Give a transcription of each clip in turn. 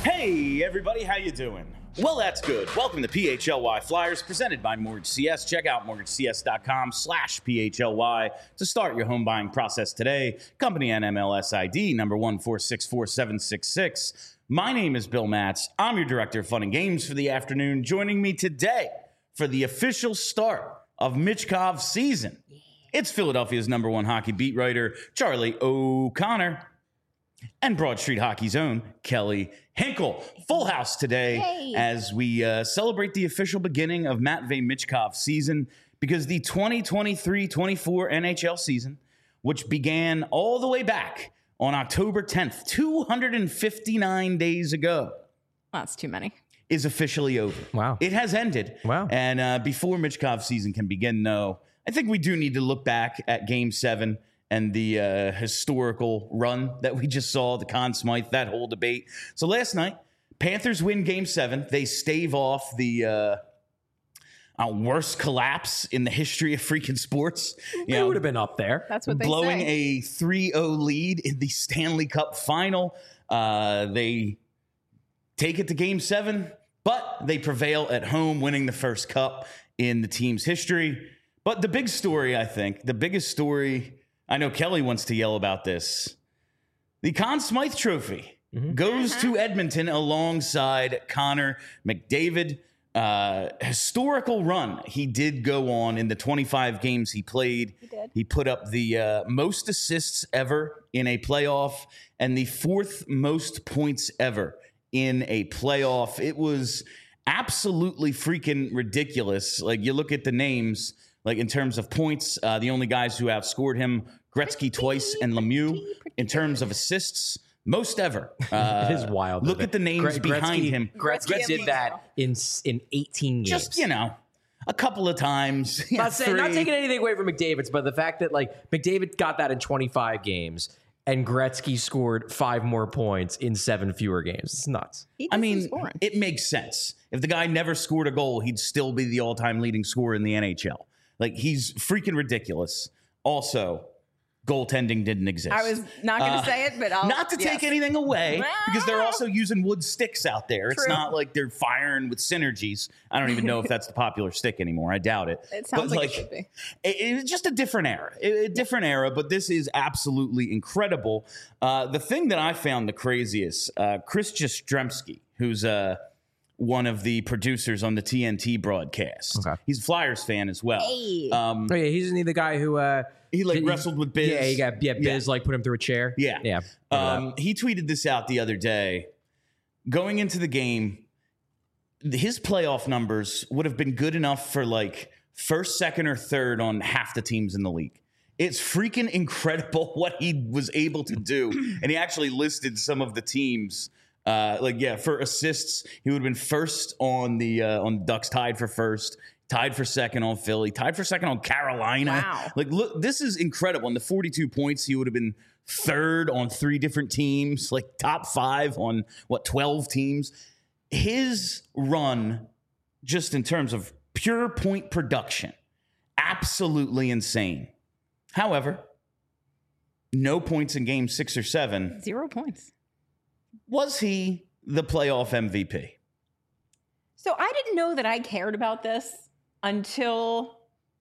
Hey everybody, how you doing? Well, that's good. Welcome to PHLY Flyers, presented by Mortgage CS. Check out mortgagecs.com/PHLY to start your home buying process today. Company NMLS ID number 1464766. My name is Bill Matz. I'm your Director of Fun and Games for the afternoon. Joining me today for the official start of Michkov's season, it's Philadelphia's number one hockey beat writer, Charlie O'Connor, and Broad Street Hockey's own Kelly Hinkle. Full house today as we celebrate the official beginning of Matvei Michkov's season, because the 2023-24 NHL season, which began all the way back on October 10th, 259 days ago. That's too many. Is officially over. Wow. It has ended. Wow. And before Michkov's season can begin, though, I think we do need to look back at Game 7 and the historical run that we just saw, the Conn Smythe, that whole debate. So last night, Panthers win Game 7. They stave off the worst collapse in the history of freaking sports. They would have been up there. That's what they blowing say. a 3-0 lead in the Stanley Cup final. They take it to Game 7, but they prevail at home, winning the first cup in the team's history. But the big story, I think, the biggest story, I know Kelly wants to yell about this. The Conn Smythe Trophy goes to Edmonton alongside Connor McDavid. Historical run he did go on in the 25 games he played. He put up the most assists ever in a playoff and the fourth most points ever in a playoff. It was absolutely freaking ridiculous. Like, you look at the names, like in terms of points, the only guys who outscored him, Gretzky twice and Lemieux. In terms of assists, most ever. It is wild. Look at the names behind him. Gretzky did that in 18 games. Just, a couple of times. Not taking anything away from McDavid's, but the fact that McDavid got that in 25 games and Gretzky scored 5 more points in 7 fewer games. It's nuts. It makes sense. If the guy never scored a goal, he'd still be the all-time leading scorer in the NHL. Like, he's freaking ridiculous. Also, goaltending didn't exist. I was not going to say it, but I'll... Not to take anything away, because they're also using wood sticks out there. It's not like they're firing with synergies. I don't even know if that's the popular stick anymore. I doubt it. It sounds like it should be. It's just a different era. A different era, but this is absolutely incredible. The thing that I found the craziest, Chris Jastrzemski, who's one of the producers on the TNT broadcast. Okay. He's a Flyers fan as well. Hey. Isn't he the guy who... he wrestled with Biz. Biz put him through a chair. Yeah. He tweeted this out the other day. Going into the game, his playoff numbers would have been good enough for first, second, or third on half the teams in the league. It's freaking incredible what he was able to do. And he actually listed some of the teams. For assists, he would have been first on the Ducks, tied for first. Tied for second on Philly. Tied for second on Carolina. Wow. Look, this is incredible. In the 42 points, he would have been third on 3 different teams, top 5 on, 12 teams. His run, just in terms of pure point production, absolutely insane. However, no points in game 6 or 7. 0 points. Was he the playoff MVP? So I didn't know that I cared about this until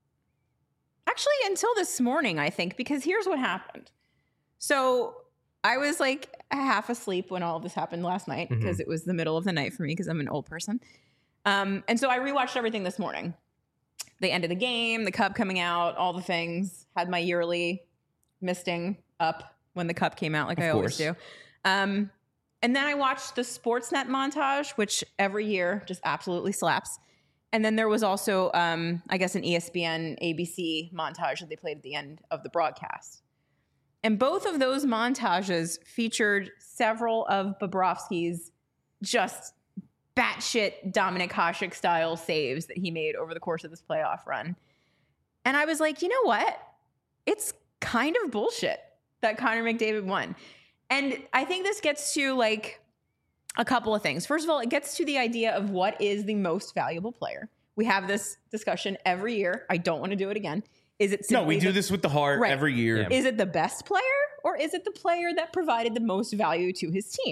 this morning, I think, because here's what happened. So I was half asleep when all of this happened last night because it was the middle of the night for me because I'm an old person. And so I rewatched everything this morning. The end of the game, the cup coming out, all the things. Had my yearly misting up when the cup came out, like I always do. And then I watched the Sportsnet montage, which every year just absolutely slaps. And then there was also, an ESPN ABC montage that they played at the end of the broadcast. And both of those montages featured several of Bobrovsky's just batshit Dominic Hasek style saves that he made over the course of this playoff run. And I was like, you know what? It's kind of bullshit that Connor McDavid won. And I think this gets to a couple of things. First of all, it gets to the idea of what is the most valuable player. We have this discussion every year. I don't want to do it again. Is it simply we do this with the heart every year. Yeah. Is it the best player or is it the player that provided the most value to his team?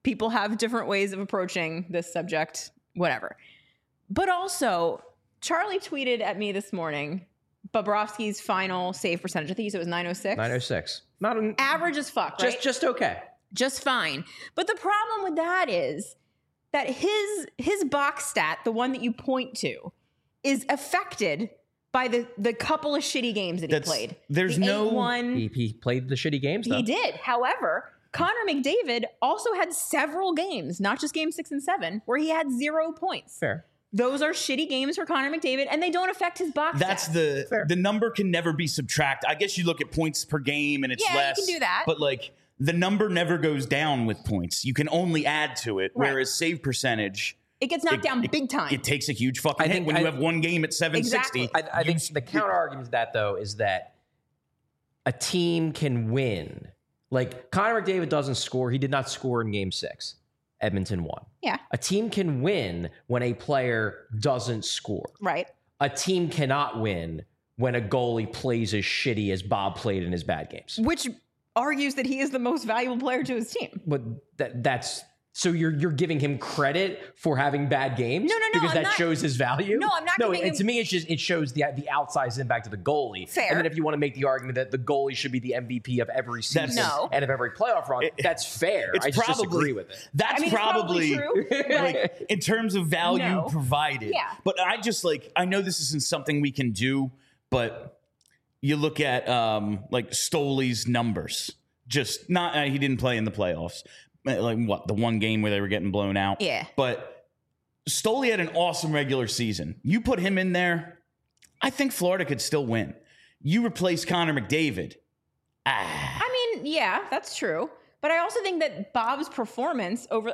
people have different ways of approaching this subject, whatever. But also, Charlie tweeted at me this morning, Bobrovsky's final save percentage. I think he said it was 906. 906. Not an Average as fuck, right? just okay. Just fine. But the problem with that is that his box stat, the one that you point to, is affected by the couple of shitty games that he played. There's the no 8-1. He played the shitty games though. He did. However, Connor McDavid also had several games, not just game 6 and 7, where he had 0 points. Fair. Those are shitty games for Connor McDavid, and they don't affect his box That's stats. the number can never be subtracted. I guess you look at points per game and it's less. You can do that. But like the number never goes down with points. You can only add to it. Right. Whereas save percentage, It gets knocked down big time. it takes a huge fucking hit when you have one game at 760. Exactly. I think the counter argument to that, though, is that a team can win. Like, Connor McDavid doesn't score. He did not score in game 6. Edmonton won. Yeah. A team can win when a player doesn't score. Right. A team cannot win when a goalie plays as shitty as Bob played in his bad games. Which argues that he is the most valuable player to his team. But that's... So you're giving him credit for having bad games? No, because I'm that not- shows his value? No, I'm not giving him- to me, it shows the outsized impact of the goalie. Fair. And then if you want to make the argument that the goalie should be the MVP of every season No. and of every playoff run, that's fair. It's I just probably- disagree with it. That's I mean, probably, it's probably true. but- like in terms of value No. provided. Yeah. But I just I know this isn't something we can do, but you look at like Stoley's numbers. Just not he didn't play in the playoffs. Like what, the one game where they were getting blown out. Yeah. But Stoley had an awesome regular season. You put him in there, I think Florida could still win. You replace Connor McDavid. I mean, yeah, that's true. But I also think that Bob's performance a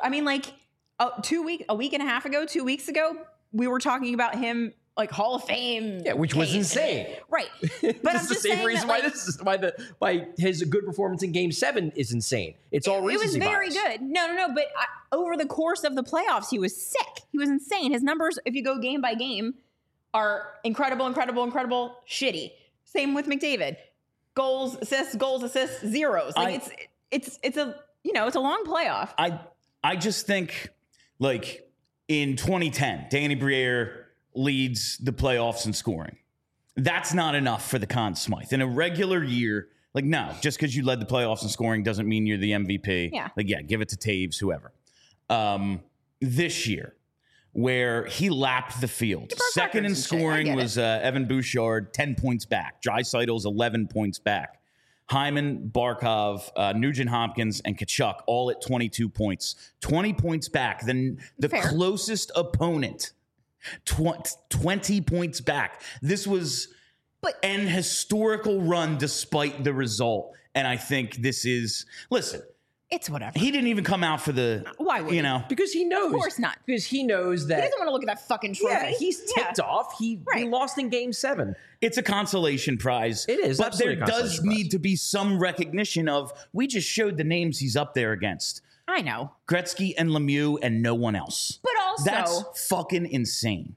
week and a half ago, 2 weeks ago, we were talking about him like Hall of Fame. Yeah, which was case. insane. Right. But This I'm is the just same saying reason that, why his good performance in Game 7 is insane. It's all it was recency very bias. good. No. But over the course of the playoffs, he was sick. He was insane. His numbers, if you go game by game, are incredible, shitty. Same with McDavid. Goals, assists, zeros. Like it's a long playoff. I just think like in 2010, Danny Briere leads the playoffs in scoring. That's not enough for the Conn Smythe. In a regular year, like no, just because you led the playoffs in scoring doesn't mean you're the MVP. Yeah. Like yeah, give it to Taves, whoever. This year, where he lapped the field. Second in records and shit. I scoring get was Evan Bouchard, 10 points back. Draisaitl's 11 points back. Hyman, Barkov, Nugent Hopkins, and Kachuk all at 22 points. 20 points back. Then the Fair. closest opponent, 20 points back. This was an historical run despite the result. And I think this is, listen, It's whatever. he didn't even come out for the, Why would he? Because he knows. Of course not. Because he knows that. He doesn't want to look at that fucking trophy. Yeah, he's ticked off. He Right. lost in Game 7. it's a consolation prize. It is, But absolutely there a does consolation prize. need to be some recognition of, we just showed the names he's up there against. I know. Gretzky and Lemieux and no one else. But also, That's fucking insane.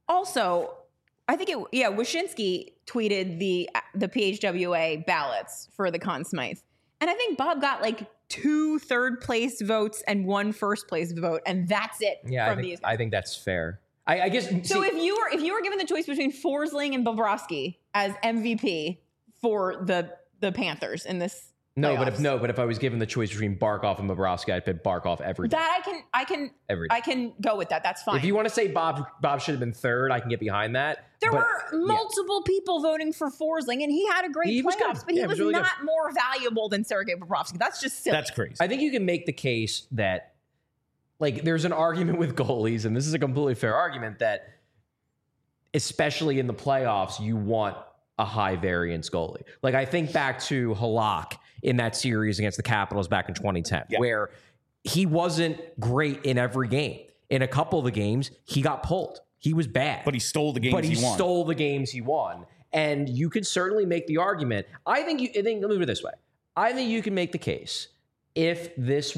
I think Wyshynski tweeted the PHWA ballots for the Conn Smythe. And I think Bob got like 2 third place votes and 1 first place vote, and that's it. Yeah, from these. I think that's fair. I guess. So if you were given the choice between Forsling and Bobrovsky as MVP for the Panthers in this playoffs, but if I was given the choice between Barkov and Bobrovsky, I'd pick Barkov every day. that Every day. I can go with that. That's fine. If you want to say Bob should have been third, I can get behind that. There But, were multiple people voting for Forsling, and he had a great He was playoffs, good. but he Yeah, he was was really not more valuable than Sergei Bobrovsky. That's just silly. That's crazy. I think you can make the case that, like, there's an argument with goalies, and this is a completely fair argument, that especially in the playoffs, you want a high variance goalie. Like, I think back to Halak in that series against the Capitals back in 2010, where he wasn't great in every game. In a couple of the games, he got pulled. He was bad. But he stole the games he won. Stole the games he won. And you could certainly make the argument. Let me put it this way. I think you can make the case if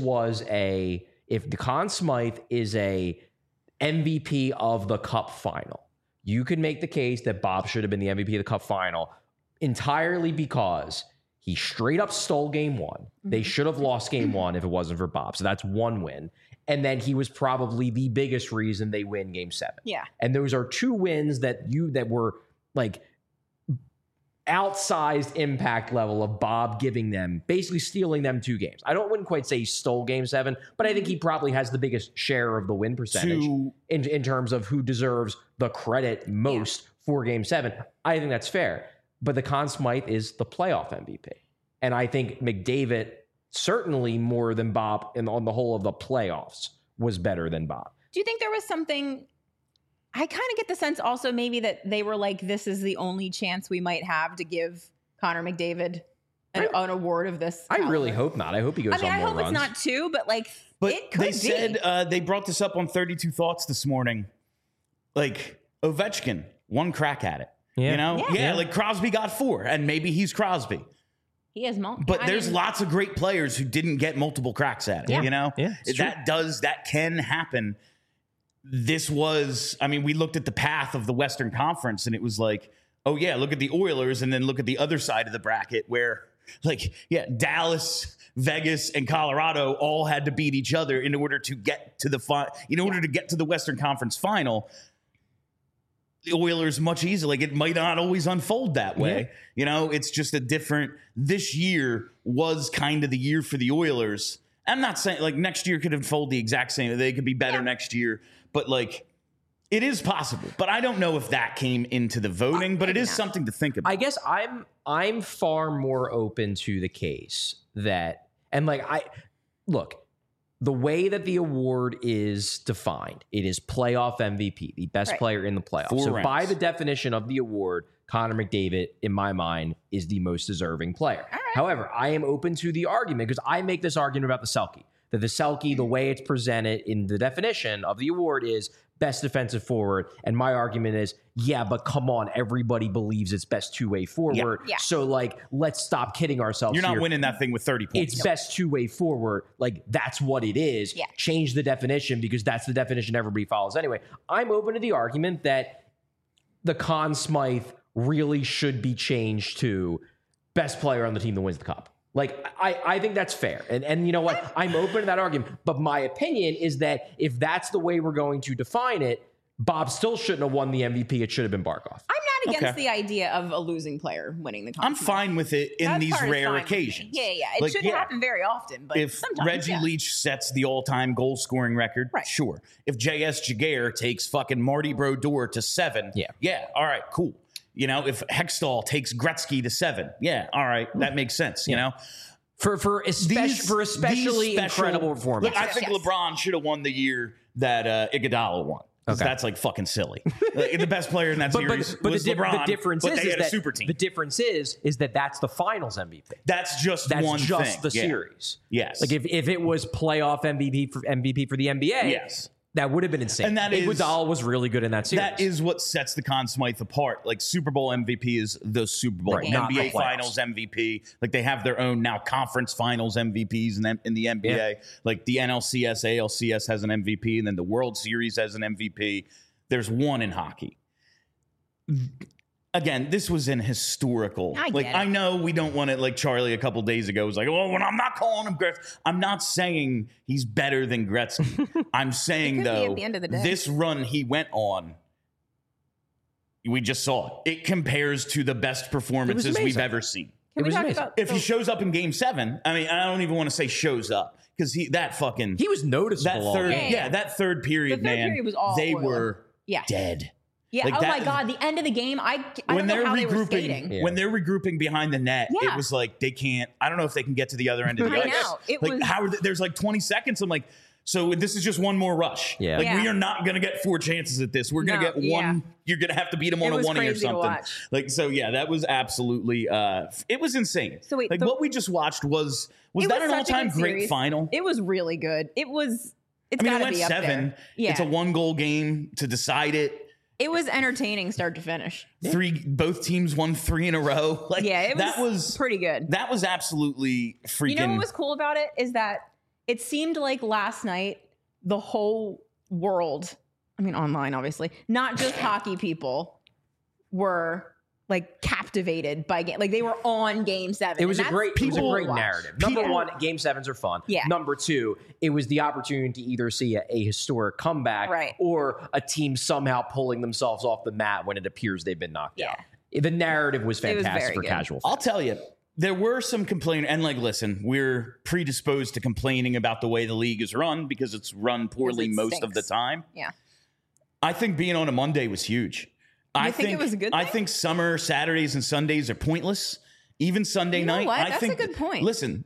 the Conn Smythe is a MVP of the Cup final, you could make the case that Bob should have been the MVP of the Cup final entirely because He straight up stole game one. They should have lost game one if it wasn't for Bob. So that's one win. And then he was probably the biggest reason they win game 7. Yeah. And those are 2 wins that were like outsized impact level of Bob giving them, basically stealing them 2 games. I wouldn't quite say he stole game 7, but I think he probably has the biggest share of the win percentage in terms of who deserves the credit most for game 7. I think that's fair. But the Conn Smythe is the playoff MVP. And I think McDavid, certainly more than Bob on the whole of the playoffs, was better than Bob. Do you think there was something? I kind of get the sense also maybe that they were like, this is the only chance we might have to give Connor McDavid an award of this caliber. I really hope not. I hope he goes on more runs. I hope it's not 2, but like, it could they be. said they brought this up on 32 Thoughts this morning. Like, Ovechkin, 1 crack at it. Yeah. You know? Yeah, like Crosby got 4, and maybe he's Crosby. He has multiple. But there's lots of great players who didn't get multiple cracks at it, you know? Yeah, that can happen. This was, I mean, we looked at the path of the Western Conference and it was like, oh yeah, look at the Oilers and then look at the other side of the bracket where like, yeah, Dallas, Vegas, and Colorado all had to beat each other in order to get to the Western Conference final. The Oilers much easier. Like, it might not always unfold that way. Yeah. You know, it's just a different, this year was kind of the year for the Oilers. I'm not saying like next year could unfold the exact same. They could be better next year, but like it is possible. But I don't know if that came into the voting, but it is something to think about. I guess I'm far more open to the case that, and like look, the way that the award is defined, it is playoff MVP, the best player in the playoffs. 4 so rounds. by the definition of the award, Connor McDavid, in my mind, is the most deserving player. Right. However, I am open to the argument because I make this argument about the Selke. That the Selke, the way it's presented in the definition of the award is best defensive forward. And my argument is, yeah, but come on, everybody believes it's best 2-way forward. Yeah. So, like, let's stop kidding ourselves. You're not here. winning that thing with 30 points. It's best 2-way forward. Like, that's what it is. Yeah. Change the definition because that's the definition everybody follows anyway. I'm open to the argument that the Conn Smythe really should be changed to best player on the team that wins the cup. Like, I think that's fair. And you know what? I'm open to that argument. But my opinion is that if that's the way we're going to define it, Bob still shouldn't have won the MVP. It should have been Barkov. I'm not against the idea of a losing player winning the Conn I'm Smythe. fine with it in That these part is rare fine with me. occasions. Yeah. It shouldn't happen very often, but if sometimes, Reggie Leach sets the all-time goal scoring record, sure. If J.S. Jaguar takes fucking Marty Brodeur to 7, yeah, all right, cool. You know, if Hextall takes Gretzky to 7, yeah, all right, that makes sense. You know, for especially incredible performance. Look, I think LeBron should have won the year that Iguodala won. Because that's like fucking silly. Like, the best player in that series was LeBron. The difference but is they had that a super team. The difference is that that's the Finals MVP. That's just one thing. the series. Yes. Like if it was playoff MVP for the NBA. Yes. That would have been insane. And that Iguodala was really good in that series. That is what sets the Conn Smythe apart. Like, Super Bowl MVP is the Super Bowl. Right, not NBA the Finals MVP. Like, they have their own now conference Finals MVPs in the NBA. Yeah. Like, the NLCS, ALCS has an MVP, and then the World Series has an MVP. There's one in hockey. Again, this was an historical. I know we don't want it. Like Charlie a couple days ago was like, "Oh, when I'm not calling him Gretzky." I'm not saying he's better than Gretzky. I'm saying though, at the end of the day. this run he went on, we just saw it. It compares to the best performances we've ever seen. Can we talk about If he shows up in Game 7, I mean, I don't even want to say shows up because he was noticeable. That third period, the third period was all they oil. were dead. Yeah. Like my God. The end of the game. I don't know how they were skating. When they're regrouping behind the net, it was like they can't. I don't know if they can get to the other end of the ice. know. It like was how there's like 20 seconds. I'm like, so this is just one more rush. Yeah. Like we are not gonna get 4 chances at this. We're gonna get one. You're gonna have to beat them on a 1-0 or something. Like so. Yeah, that was absolutely. It was insane. So wait, like what we just watched was that an all-time great final? It was really good. It was. It's I mean, it gotta went be up 7. there. Yeah. It's a 1-goal game to decide it. It was entertaining start to finish. Both teams won 3 in a row. Like, that was pretty good. That was absolutely freaking. You know what was cool about it is that it seemed like last night the whole world, I mean online obviously, not just hockey people, were like captivated by game. Like they were on Game 7. It was a and great that's cool to watch. narrative. Number one, Game 7s are fun. Yeah. Number two, it was the opportunity to either see a historic comeback Right. or a team somehow pulling themselves off the mat when it appears they've been knocked out. The narrative was It was fantastic very for good. casual I'll fans. tell you, there were some complaints, and like, listen, we're predisposed to complaining about the way the league is run because it's run poorly it most of the stinks. time. Yeah. I think being on a Monday was huge. I think it was a good I thing? think summer Saturdays and Sundays are pointless. Even Sunday You know night. what? I That's think, a good point. Listen,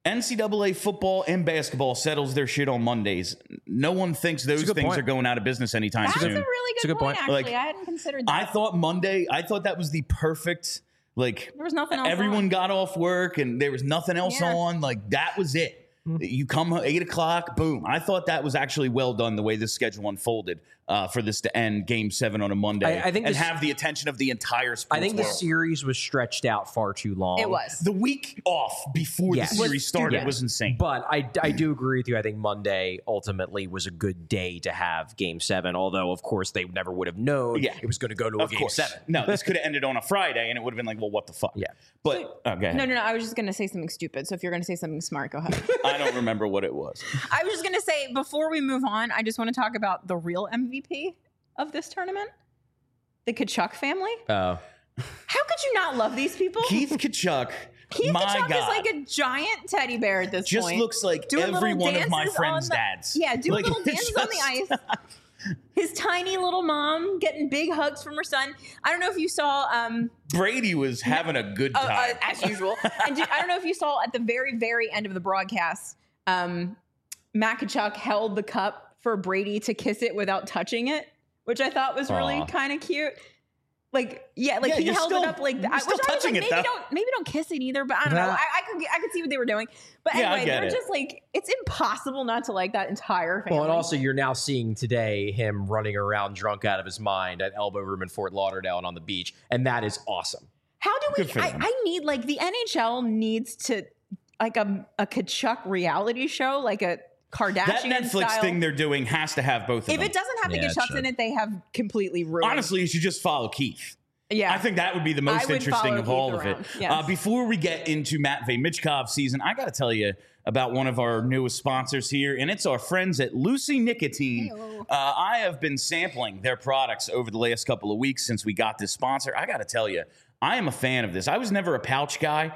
NCAA football and basketball settles their shit on Mondays. No one thinks those good things point. are going out of business anytime That's a soon. really It's a good good point, point. actually. Like, I hadn't considered that. I thought Monday, I thought that was the perfect, like, There was nothing else everyone on. got off work and there was nothing else Yeah. on. Like, that was it. You come 8 o'clock, boom. I thought that was actually well done the way this schedule unfolded for this to end Game 7 on a Monday I think and this- have the attention of the entire sports I think the world. series was stretched out far too long. It was. The week off before Yes. the series started Yes. was insane. But I do agree with you. I think Monday ultimately was a good day to have Game 7, although, of course, they never would have known Yeah. it was going to go to a Of Game course. 7. No, this could have ended on a Friday and it would have been like, well, what the fuck? Yeah. But, go ahead. No. I was just going to say something stupid. So if you're going to say something smart, go ahead. I don't remember what it was. I was just going to say, before we move on, I just want to talk about the real MVP of this tournament, the Kachuk family. Oh. How could you not love these people? Keith Kachuk, Keith my Kachuk God, is like a giant teddy bear at this just point. looks like Doing every little one of my dances friends' on the- dads. Yeah, doing Like, little dances on the just- ice. His tiny little mom getting big hugs from her son. I don't know if you saw Brady was having a good time. as usual. And I don't know if you saw at the very, very end of the broadcast, Matt Kachuk held the cup for Brady to kiss it without touching it, which I thought was really Aw. kind of cute. Like, he Yeah, held you're it up like still- that. you're still Which I was touching like, it, though. maybe don't kiss it either. But I don't know. Nah. I could see what they were doing. But Yeah, I anyway, get they're it. just like, it's impossible not to like that entire family. Well, and also you're now seeing today him running around drunk out of his mind at Elbow Room in Fort Lauderdale and on the beach, and that is awesome. How do we? Good for them. I need like the NHL needs to like a Kachuk reality show, like a Kardashian That Netflix style. thing they're doing has to have both of If them. it doesn't have the Yeah, it Kachucks should. in it, they have completely ruined. Honestly, you should just follow Keith. yeah, I think that would be the most I would interesting follow of Keith all of around, it. yes. Before we get into Matvey Michkov season, I got to tell you about one of our newest sponsors here, and it's our friends at Lucy Nicotine. Heyo. I have been sampling their products over the last couple of weeks since we got this sponsor. I got to tell you, I am a fan of this. I was never a pouch guy,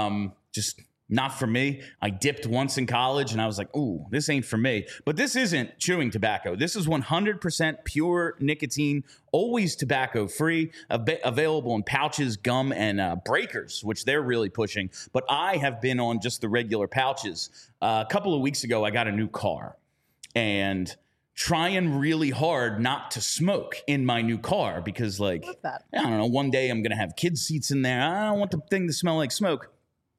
just not for me. I dipped once in college and I was like, ooh, this ain't for me. But this isn't chewing tobacco. This is 100% pure nicotine, always tobacco free, available in pouches, gum, and breakers, which they're really pushing. But I have been on just the regular pouches. A couple of weeks ago, I got a new car and trying really hard not to smoke in my new car because, like, What's that? I don't know, one day I'm going to have kids' seats in there. I don't want the thing to smell like smoke.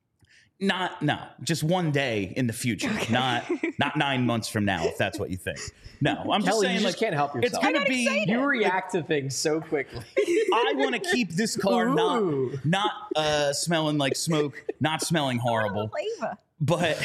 Just one day in the future, not 9 months from now, if that's what you think. No, I'm just Kelly, saying, you just like, can't help it's yourself. going to be. You react to things so quickly. I want to keep this car Ooh. not smelling like smoke, not smelling horrible. Flavor. But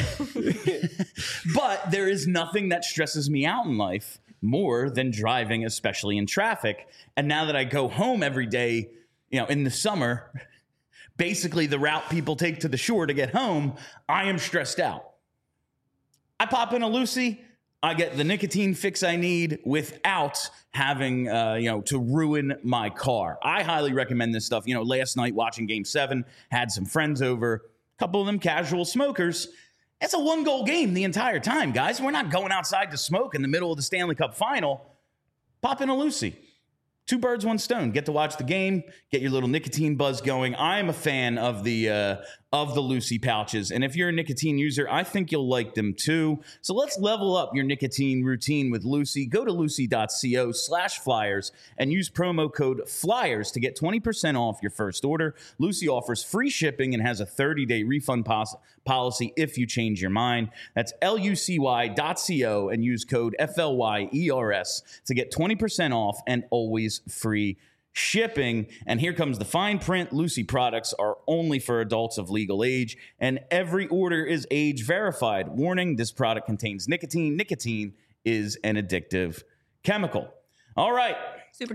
there is nothing that stresses me out in life more than driving, especially in traffic. And now that I go home every day, in the summer, basically the route people take to the shore to get home, I am stressed out. I pop in a Lucy, I get the nicotine fix I need without having, to ruin my car. I highly recommend this stuff. Last night watching Game 7, had some friends over, a couple of them casual smokers. It's a 1-goal game the entire time, guys. We're not going outside to smoke in the middle of the Stanley Cup final. Pop in a Lucy. 2 birds, 1 stone. Get to watch the game, get your little nicotine buzz going. I am a fan of the Lucy pouches, and if you're a nicotine user, I think you'll like them too. So let's level up your nicotine routine with Lucy. Go to lucy.co/flyers and use promo code FLYERS to get 20% off your first order. Lucy offers free shipping and has a 30-day refund policy if you change your mind. That's lucy.co and use code FLYERS to get 20% off and always free shipping. And here comes the fine print. Lucy products are only for adults of legal age, and every order is age verified. Warning, this product contains nicotine. Nicotine is an addictive chemical. All right. Super chat.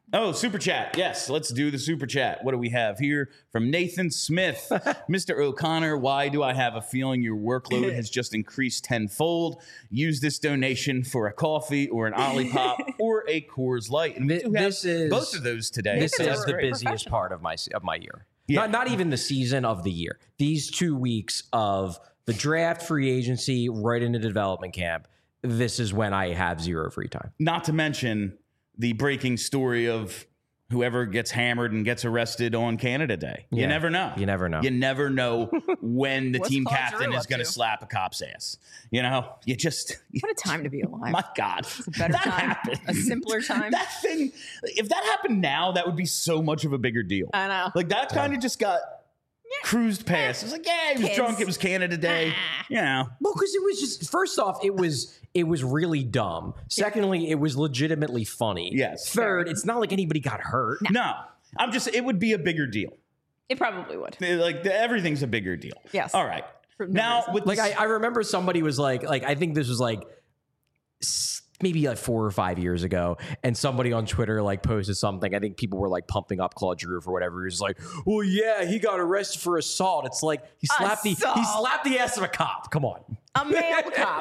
Oh, super chat. Yes, let's do the super chat. What do we have here from Nathan Smith? Mr. O'Connor, why do I have a feeling your workload has just increased tenfold? Use this donation for a coffee or an Olipop or a Coors Light. And we do have both of those today. This so is that's the great. busiest part of my year. Yeah. Not even the season of the year. These 2 weeks of the draft, free agency, right into development camp. This is when I have zero free time. Not to mention the breaking story of whoever gets hammered and gets arrested on Canada Day. You Yeah. never know. You never know. You never know when the What's team Paul captain Giroux is up going to to? slap a cop's ass. You know, you just, What a time to be alive. my God. a better that time. happened. A simpler time. That thing, if that happened now, that would be so much of a bigger deal. I know. Like that kind of just got cruised past. It's like, yeah, he was Kids. drunk. It was Canada Day. You know. Well, because it was just, first off, it was really dumb. Secondly, it was legitimately funny. Yes. Third, it's not like anybody got hurt. No, it would be a bigger deal. It probably would. Like everything's a bigger deal. Yes. All right. For no Now, reason. with Like this- I remember somebody was like I think this was like maybe like 4 or 5 years ago, and somebody on Twitter like posted something. I think people were like pumping up Claude Giroux for whatever. He was like, "Well, yeah, he got arrested for assault." It's like he slapped the ass of a cop. Come on, A male cop.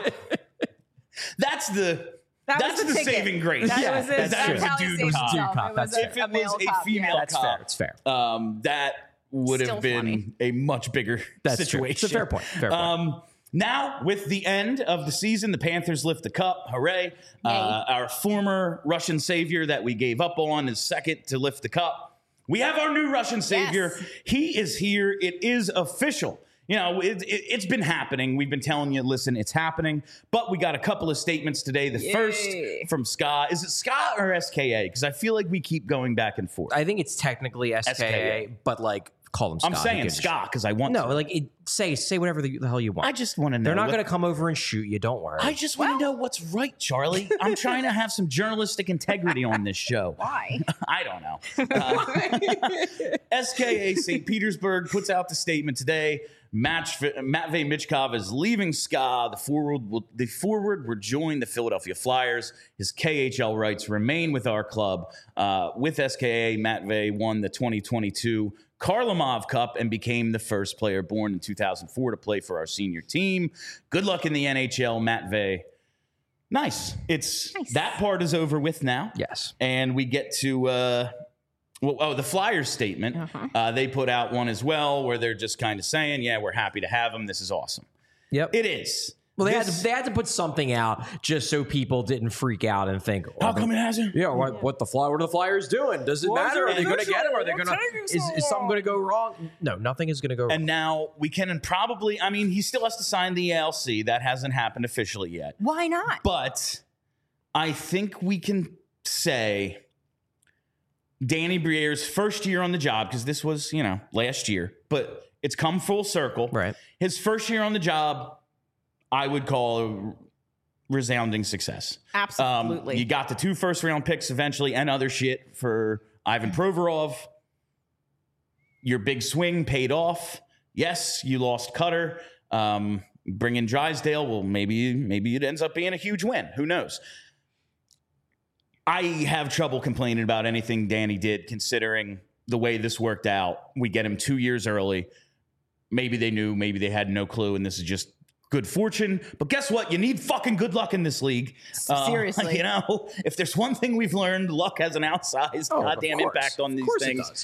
that's the That that's was the the ticket. saving grace. That Yeah, was it. that's true. That's how he It was saved a dude himself. cop. It That's was fair. If it male was a cop, female yeah. that's cop, fair. It's fair. that would Still have been funny. a much bigger That's true. situation. It's a fair point. Fair point. Now, with the end of the season, the Panthers lift the cup. Hooray. Our former Russian savior that we gave up on is second to lift the cup. We have our new Russian savior. Yes. He is here. It is official. You know, it's been happening. We've been telling you, listen, it's happening. But we got a couple of statements today. The first from Ska. Is it Ska or SKA? Because I feel like we keep going back and forth. I think it's technically SKA, SKA. but like call them Scott. I'm saying Ska because I want No, to. like say whatever the hell you want. I just want to know. They're not what- going to come over and shoot you. Don't worry. I just want to know what's right, Charlie. I'm trying to have some journalistic integrity on this show. Why? I don't know. SKA St. Petersburg puts out the statement today. Matvey Michkov is leaving SKA. The forward will join the Philadelphia Flyers. His KHL rights remain with our club. With SKA, Matvey won the 2022 Karlamov Cup and became the first player born in 2004 to play for our senior team. Good luck in the NHL, Matvey. Nice. That part is over with now. yes. And we get to the Flyers statement. They put out one as well where they're just kind of saying, yeah, we're happy to have him. This is awesome. Yep. It is. Well, they This- had to put something out just so people didn't freak out and think, How come it hasn't? yeah, what are the Flyers doing? Does it matter? Are they going to get him? Are they going to? Is something going to go wrong? No, nothing is going to go wrong. And now we can probably, I mean, he still has to sign the ALC. That hasn't happened officially yet. Why not? But I think we can say Danny Briere's first year on the job, because this was, last year, but it's come full circle. Right. His first year on the job, I would call a resounding success. Absolutely. You got the 2 first-round picks eventually and other shit for Ivan Provorov. Your big swing paid off. Yes, you lost Cutter. Bring in Drysdale. Well, maybe it ends up being a huge win. Who knows? I have trouble complaining about anything Danny did, considering the way this worked out. We get him 2 years early. Maybe they knew, maybe they had no clue, and this is just good fortune. But guess what? You need fucking good luck in this league. Seriously. If there's one thing we've learned, luck has an outsized goddamn impact on these things.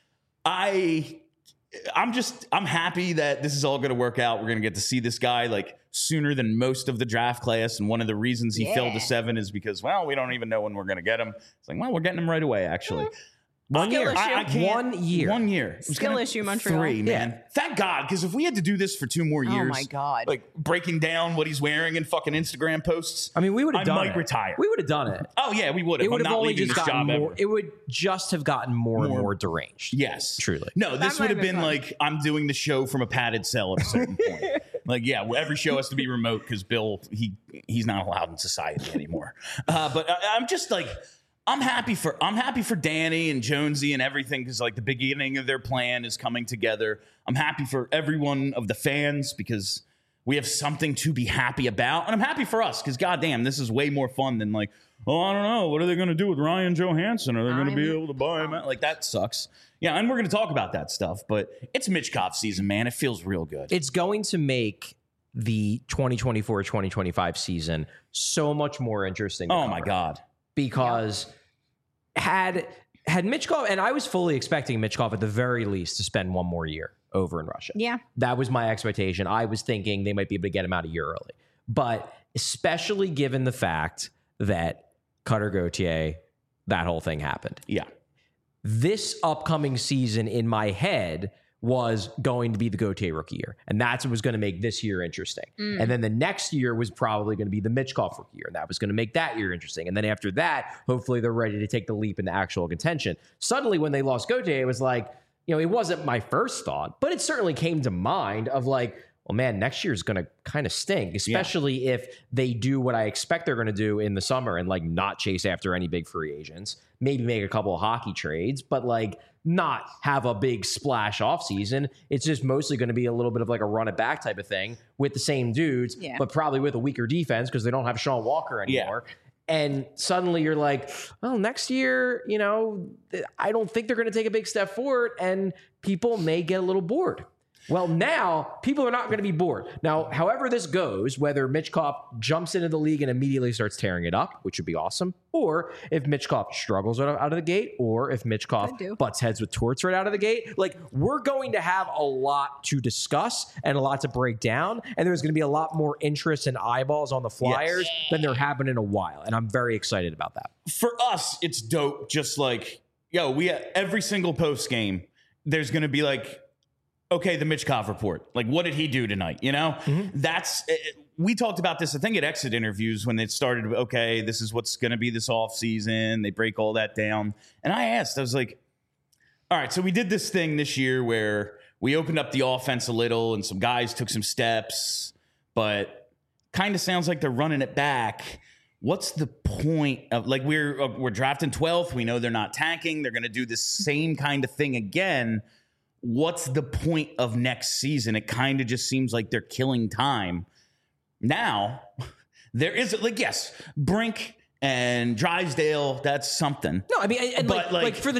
I'm happy that this is all going to work out. We're going to get to see this guy like sooner than most of the draft class. And one of the reasons he fell to 7 is because, we don't even know when we're going to get him. It's like, we're getting him right away, actually. 1 year. issue. I can't- 1 year. 1 year. It was Skill gonna- issue, Montreal. 3, man. Yeah. Thank God, because if we had to do this for 2 more years, my God. like breaking down what he's wearing in fucking Instagram posts, I mean, we would have done it. I might retire. We would have done it. Oh yeah, we would have. It would I'm have not only leaving just this gotten job more. ever. It would just have gotten more and more deranged. Yes, Truly. No, this That would have might been have been like I'm doing the show from a padded cell at a certain point. Like, yeah, every show has to be remote because Bill he's not allowed in society anymore. But I'm just like. I'm happy for Danny and Jonesy and everything because like the beginning of their plan is coming together. I'm happy for everyone of the fans because we have something to be happy about. And I'm happy for us because, goddamn, this is way more fun than like, oh, I don't know. What are they going to do with Ryan Johansson? Are they going to be able to buy him out? Like, that sucks. Yeah, and we're going to talk about that stuff. But it's Michkov season, man. It feels real good. It's going to make the 2024-2025 season so much more interesting. Oh, my God. Because had Michkov, and I was fully expecting Michkov at the very least to spend one more year over in Russia. Yeah. That was my expectation. I was thinking they might be able to get him out a year early. But especially given the fact that Cutter Gauthier, that whole thing happened. Yeah. This upcoming season in my head was going to be the Gauthier rookie year. And that's what was going to make this year interesting. And then the next year was probably going to be the Michkov rookie year. And that was going to make that year interesting. And then after that, hopefully they're ready to take the leap into actual contention. Suddenly when they lost Gauthier, it was like, you know, it wasn't my first thought, but it certainly came to mind of like, well, man, next year is going to kind of stink, especially if they do what I expect they're going to do in the summer and like not chase after any big free agents, maybe make a couple of hockey trades, but like not have a big splash offseason. It's just mostly going to be a little bit of like a run it back type of thing with the same dudes, but probably with a weaker defense because they don't have Sean Walker anymore. Yeah. And suddenly you're like, well, next year, you know, I don't think they're going to take a big step forward and people may get a little bored. Well, now people are not going to be bored. Now, however this goes, whether Michkov jumps into the league and immediately starts tearing it up, which would be awesome, or if Michkov struggles out of the gate, or if Michkov butts heads with Torts right out of the gate, like we're going to have a lot to discuss and a lot to break down. And there's going to be a lot more interest and eyeballs on the Flyers than there have been in a while. And I'm very excited about that. For us, it's dope. Just like, yo, we every single post game, there's going to be like, okay, the Michkov report. Like, what did he do tonight? You know, that's we talked about this, I think, at exit interviews when it started. Okay, this is what's going to be this off season. They break all that down. And I asked, I was like, all right, so we did this thing this year where we opened up the offense a little and some guys took some steps, but kind of sounds like they're running it back. What's the point of like we're drafting 12th? We know they're not tanking. They're going to do the same kind of thing again. What's the point of next season? It kind of just seems like they're killing time. Now, there is, like, yes, Brink and Drysdale, that's something. No, I mean, and but like for the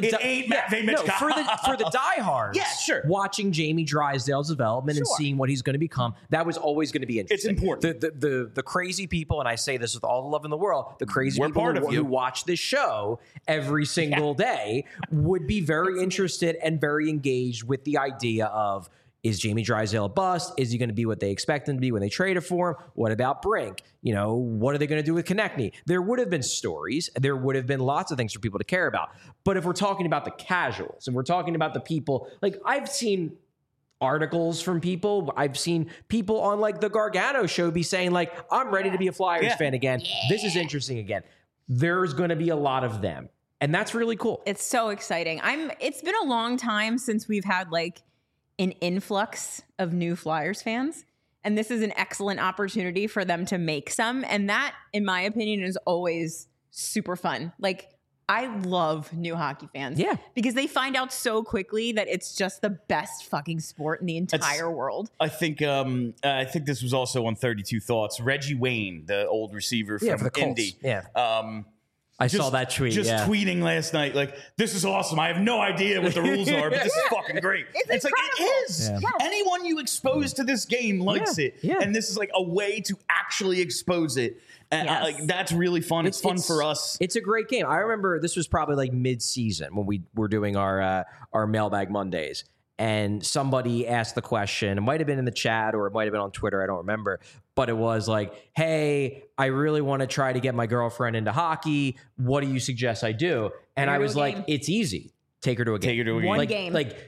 for the diehards, yeah, sure. Watching Jamie Drysdale's development and seeing what he's going to become, that was always going to be interesting. It's important. The crazy people, and I say this with all the love in the world, the crazy people who watch this show every single day would be very interested and very engaged with the idea of, is Jamie Drysdale a bust? Is he going to be what they expect him to be when they trade it for him? What about Brink? You know, what are they going to do with Konechny? There would have been stories. There would have been lots of things for people to care about. But if we're talking about the casuals and we're talking about the people, like I've seen articles from people. I've seen people on like the Gargano show be saying like, I'm ready to be a Flyers fan again. This is interesting again. There's going to be a lot of them. And that's really cool. It's so exciting. It's been a long time since we've had like an influx of new Flyers fans. And this is an excellent opportunity for them to make some. And that, in my opinion, is always super fun. Like, I love new hockey fans. Yeah. Because they find out so quickly that it's just the best fucking sport in the entire world. I think this was also on 32 Thoughts. Reggie Wayne, the old receiver from for the Colts. Indy. Yeah. I saw that tweet. Just tweeting last night, like, this is awesome. I have no idea what the rules are, but this is fucking great. It's like, it is. Yeah. Anyone you expose to this game likes it. Yeah. And this is like a way to actually expose it. And like that's really fun. It's fun for us. It's a great game. I remember this was probably like mid-season when we were doing our Mailbag Mondays. And somebody asked the question, it might have been in the chat or it might have been on Twitter, I don't remember, but it was like, hey, I really want to try to get my girlfriend into hockey. What do you suggest I do? And I was like, it's easy. Take her to a game. Take her to a game. One game. Like,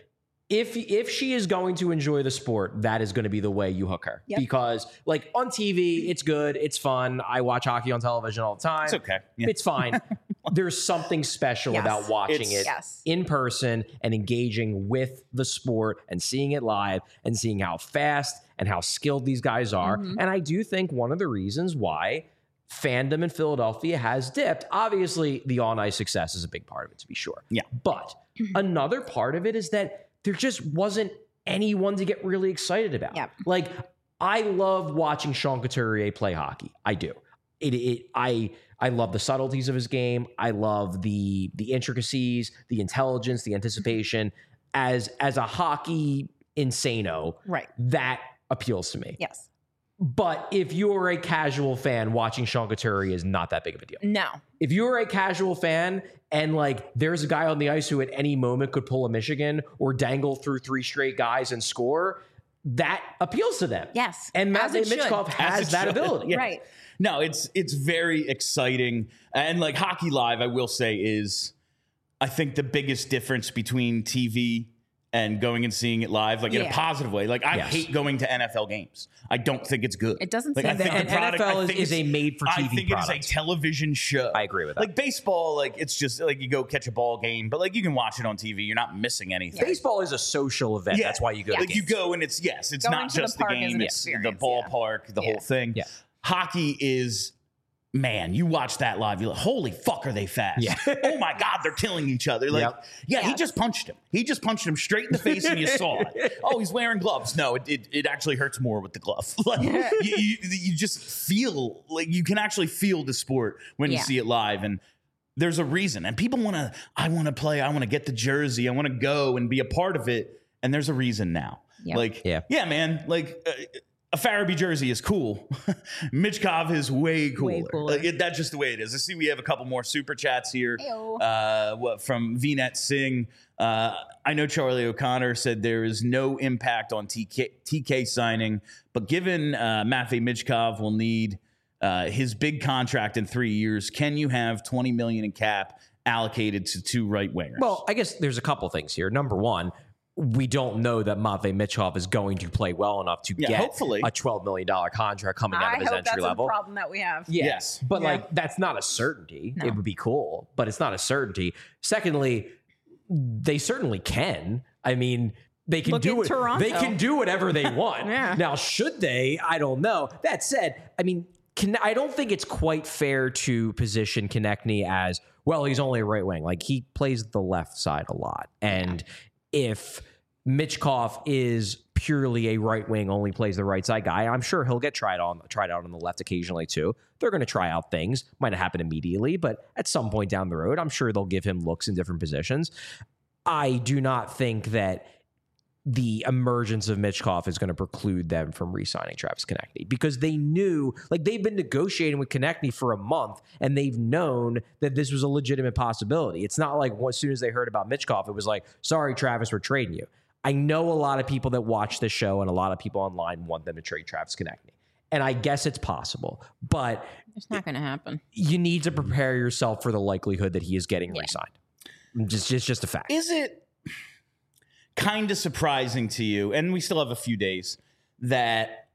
if she is going to enjoy the sport, that is going to be the way you hook her. Yep. Because like on TV, it's good. It's fun. I watch hockey on television all the time. It's okay. Yeah. It's fine. There's something special about watching it in person and engaging with the sport and seeing it live and seeing how fast and how skilled these guys are. Mm-hmm. And I do think one of the reasons why fandom in Philadelphia has dipped, obviously the on-ice success is a big part of it, to be sure. Yeah. But another part of it is that there just wasn't anyone to get really excited about. Yep. Like, I love watching Sean Couturier play hockey. I do. I love the subtleties of his game. I love the intricacies, the intelligence, the anticipation. As a hockey insano, Right. that appeals to me. Yes. But if you're a casual fan, watching Sean Couturier is not that big of a deal. No. If you're a casual fan and like there's a guy on the ice who at any moment could pull a Michigan or dangle through 3 straight guys and score, that appeals to them. Yes. And As Matvei it should. Michkov has that ability. Yeah. Right. No, it's very exciting. And like Hockey Live, I will say, is I think the biggest difference between TV and going and seeing it live, like in a Yeah. positive way. Like I Yes. hate going to NFL games. I don't think it's good. It doesn't like, seem I think And the product, NFL I think is a it's- made-for-TV I think product. it is a television show. I agree with that. Like baseball, like it's just like you go catch a ball game, but like you can watch it on TV. You're not missing anything. Baseball is a social event. Yeah. That's why you go. to Like you games. go and it's it's Going not to the just the park is game, an it's the experience, ballpark, the Yeah. whole thing. Yeah. Hockey is, man, you watch that live, you're like, holy fuck, are they fast? Yeah. Oh my God, they're killing each other. Like, Yep. yeah, he Yes. just punched him. He just punched him straight in the face and you saw it. Oh, he's wearing gloves. No, it actually hurts more with the glove. Like you just feel like you can actually feel the sport when you Yeah. see it live. And there's a reason. And people I want to play. I want to get the jersey. I want to go and be a part of it. And there's a reason now. Yep. Like, Yeah. man, like a Farabee jersey is cool. Mitchkov is way cooler. Way cooler. Like, that's just the way it is. I see we have a couple more super chats here. Heyo. From VNet Singh. I know Charlie O'Connor said there is no impact on TK signing, but given Matvei Michkov will need his big contract in 3 years, can you have $20 million in cap allocated to 2 right wingers? Well, I guess there's a couple things here. Number one, we don't know that Matvei Michkov is going to play well enough to get hopefully. a $12 million contract coming out I of his hope entry that's level. a problem that we have. Yes. But Yeah. like that's not a certainty. No. It would be cool, but it's not a certainty. Secondly, they certainly can. I mean, they can Look do at it. Toronto. They can do whatever they want. Yeah. Now, should they? I don't know. That said, I mean, I don't think it's quite fair to position Konechny as, well, he's only a right wing. Like he plays the left side a lot. And if Michkov is purely a right wing, only plays the right side guy, I'm sure he'll get tried out on the left occasionally too. They're going to try out things. Might not happen immediately, but at some point down the road, I'm sure they'll give him looks in different positions. I do not think that the emergence of Michkov is going to preclude them from re-signing Travis Konechny, because they knew, like, they've been negotiating with Konechny for a month and they've known that this was a legitimate possibility. It's not like as soon as they heard about Michkov, it was like, sorry, Travis, we're trading you. I know a lot of people that watch this show and a lot of people online want them to trade Travis Konechny. And I guess it's possible, but It's not going to happen. you need to prepare yourself for the likelihood that he is getting re-signed. Just a fact. Is it kind of surprising to you, and we still have a few days, that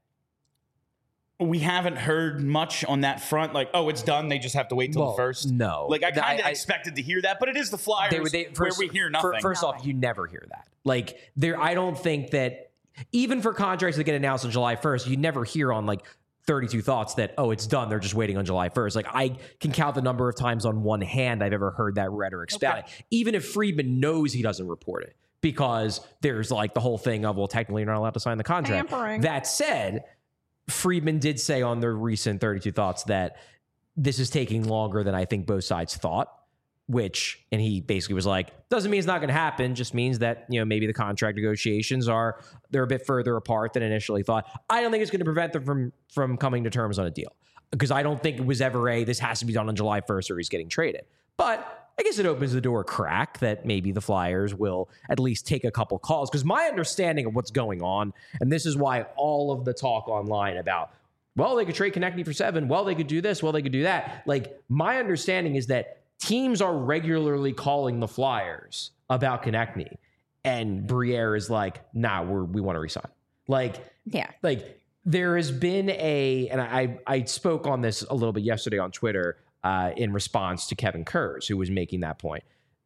we haven't heard much on that front? Like, oh, it's done, they just have to wait till Well, the first? no. Like, I kind of I- expected to hear that, but it is the Flyers where we hear nothing. First off, you never hear that. Like, I don't think that, even for contracts that get announced on July 1st, you never hear on like 32 Thoughts that, oh, it's done, they're just waiting on July 1st. Like, I can count the number of times on one hand I've ever heard that rhetoric spouted. Even if Friedman knows he doesn't report it, because there's like the whole thing of, well, technically you're not allowed to sign the contract. Tampering. That said, Friedman did say on the recent 32 Thoughts that this is taking longer than I think both sides thought, and he basically was like, doesn't mean it's not going to happen, just means that, maybe the contract negotiations they're a bit further apart than initially thought. I don't think it's going to prevent them from coming to terms on a deal, because I don't think it was ever this has to be done on July 1st or he's getting traded. But I guess it opens the door a crack that maybe the Flyers will at least take a couple calls, because my understanding of what's going on, and this is why all of the talk online about, well, they could trade Konechny for 7, well, they could do this, well, they could do that. Like, my understanding is that teams are regularly calling the Flyers about Konechny, and Briere is like, nah, we want to resign. Like there has been and I spoke on this a little bit yesterday on Twitter in response to Kevin Kurz, who was making that point.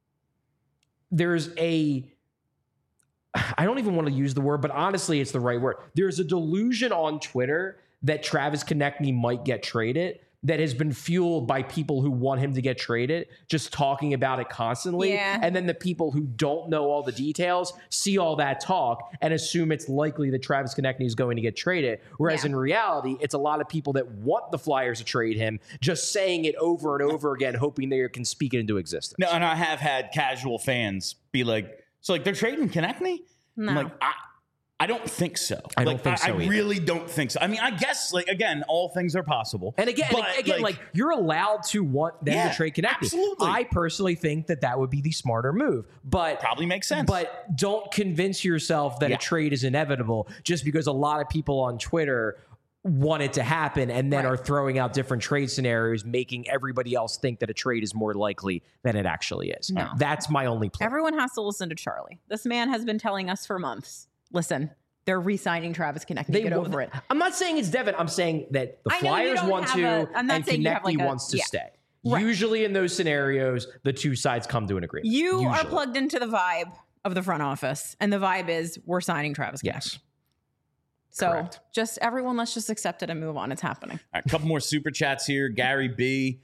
There's I don't even want to use the word, but honestly, it's the right word. There's a delusion on Twitter that Travis Konechny might get traded, that has been fueled by people who want him to get traded, just talking about it constantly. Yeah. And then the people who don't know all the details see all that talk and assume it's likely that Travis Konechny is going to get traded. Whereas in reality, it's a lot of people that want the Flyers to trade him, just saying it over and over again, hoping they can speak it into existence. No, and I have had casual fans be like, so like they're trading Konechny? No. I'm like, I don't think so. I don't think so I either. really don't think so. I mean, I guess, like, again, all things are possible. And again, but, you're allowed to want them Yeah, to trade Konechny. absolutely. I personally think that would be the smarter move, but probably makes sense. But don't convince yourself that a trade is inevitable just because a lot of people on Twitter want it to happen and then are throwing out different trade scenarios, making everybody else think that a trade is more likely than it actually is. No. That's my only point. Everyone has to listen to Charlie. This man has been telling us for months. Listen, they're re-signing Travis Konechny. Get over it. I'm not saying it's Devin. I'm saying that the I know you Flyers don't want have to, a- I'm not and saying you have Konechny like a- wants to yeah. stay. Right. Usually in those scenarios, the two sides come to an agreement. You are Usually. plugged into the vibe of the front office, and the vibe is we're signing Travis Konechny. Yes. So Correct. just everyone, let's just accept it and move on. It's happening. All right, a couple more super chats here. Gary B.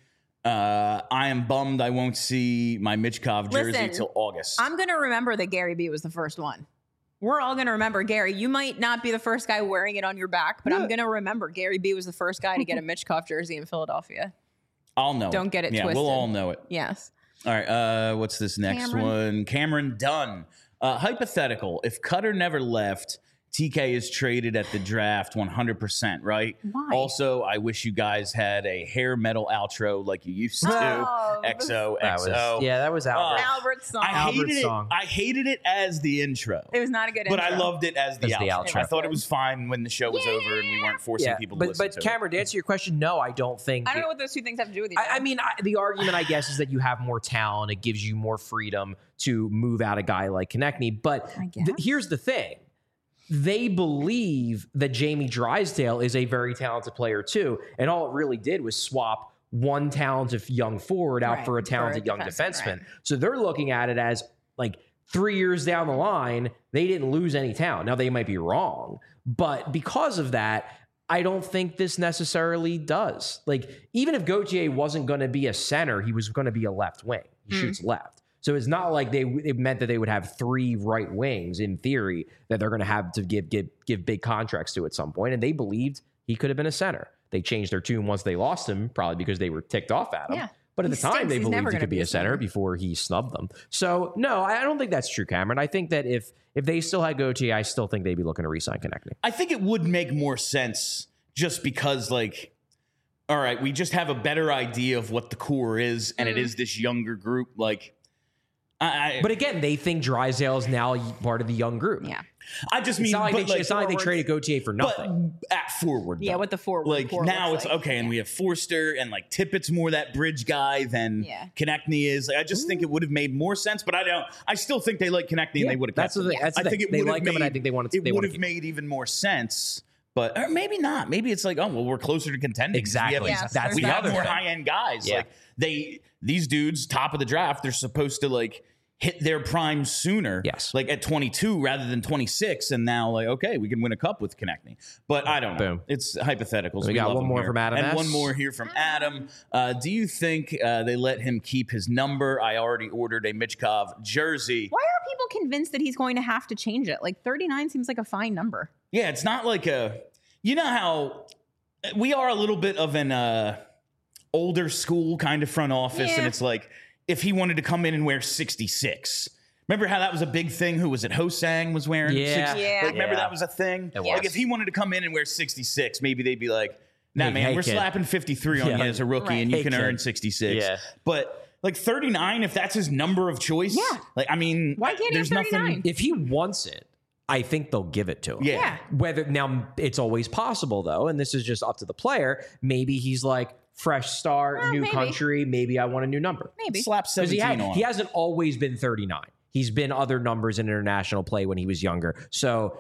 I am bummed I won't see my Michkov jersey Listen, till August. I'm going to remember that Gary B was the first one. We're all going to remember Gary. You might not be the first guy wearing it on your back, but I'm going to remember Gary B was the first guy to get a Michkov jersey in Philadelphia. I'll know. Don't get it Yeah, twisted. we'll all know it. Yes. All right. What's this next Cameron. one? Cameron Dunn. Hypothetical. If Cutter never left, TK is traded at the draft 100%, right? Why? Also, I wish you guys had a hair metal outro like you used to. Oh, XOXO. that was Albert. Albert's song. I hated Albert's it. song. I hated it as the intro. It was not a good But intro. I loved it as the As the outro. outro. I thought it was fine when the show was over and we weren't forcing people to listen but to Cameron, to answer your question, no, I don't think. I don't know what those two things have to do with each other. I mean, the argument, I guess, is that you have more talent. It gives you more freedom to move out a guy like Konechny. But I guess. here's the thing. They believe that Jamie Drysdale is a very talented player, too. And all it really did was swap one talented young forward out Right, for a for a talented young defenseman, defenseman. right. So they're looking at it as like 3 years down the line, they didn't lose any talent. Now, they might be wrong. But because of that, I don't think this necessarily does. Like, even if Gauthier wasn't going to be a center, he was going to be a left wing. He shoots left. So it's not like it meant that they would have 3 right wings in theory that they're going to have to give big contracts to at some point. And they believed he could have been a center. They changed their tune once they lost him, probably because they were ticked off at him. Yeah. But at He the time, stinks. they He's believed never he gonna could be a center before he snubbed them. So no, I don't think that's true, Cameron. I think that if they still had Gauthier, I still think they'd be looking to re-sign Konechny. I think it would make more sense just because, like, all right, we just have a better idea of what the core is, and it is this younger group. Like, But again, they think Drysdale is now part of the young group. yeah. I just mean, It's not like, but, it's not like they traded Gauthier for nothing. But at forward, Yeah, though. what the forward like core now looks it's like. okay, and we have Forster and like Tippett's more that bridge guy than Yeah. Konechny is. Like, I just think it would have made more sense, but I don't. I still think they like Konechny and they would have. That's the thing. That's the I thing. think it They would have like him, and I think they wanted to- It they would wanna have keep made even more sense. But or maybe not. Maybe it's like, oh well, we're closer to contending. Exactly. We have, Yes, That's we the have other more thing. high end guys. Yeah. Like these dudes, top of the draft, they're supposed to like hit their prime sooner. Yes. Like at 22 rather than 26, and now like okay, we can win a cup with Konechny. But I don't know. Boom. It's hypotheticals. We got love one them more here. from Adam and S. one more here from Adam. Do you think they let him keep his number? I already ordered a Michkov jersey. Why are people convinced that he's going to have to change it? Like 39 seems like a fine number. Yeah, it's not like a. You know how we are a little bit of an older school kind of front office, Yeah. and it's like if he wanted to come in and wear 66. Remember how that was a big thing? Who was it? Hosang was wearing 60. Yeah. Like, remember Yeah. that was a thing? It Like was. if he wanted to come in and wear 66, maybe they'd be like, nah, Hey, man, hey, we're kid. slapping 53 on Yeah. you as a rookie Right. and you Hey, can kid. earn 66. Yeah. But like 39, if that's his number of choice, Yeah. like, I mean, Why can't he there's have 39? nothing. If he wants it, I think they'll give it to him. Yeah. Yeah. Whether now it's always possible though, and this is just up to the player. Maybe he's like fresh start, Well, new maybe. country. Maybe I want a new number. Maybe. Slap Because 17 on he him. hasn't always been 39. He's been other numbers in international play when he was younger. So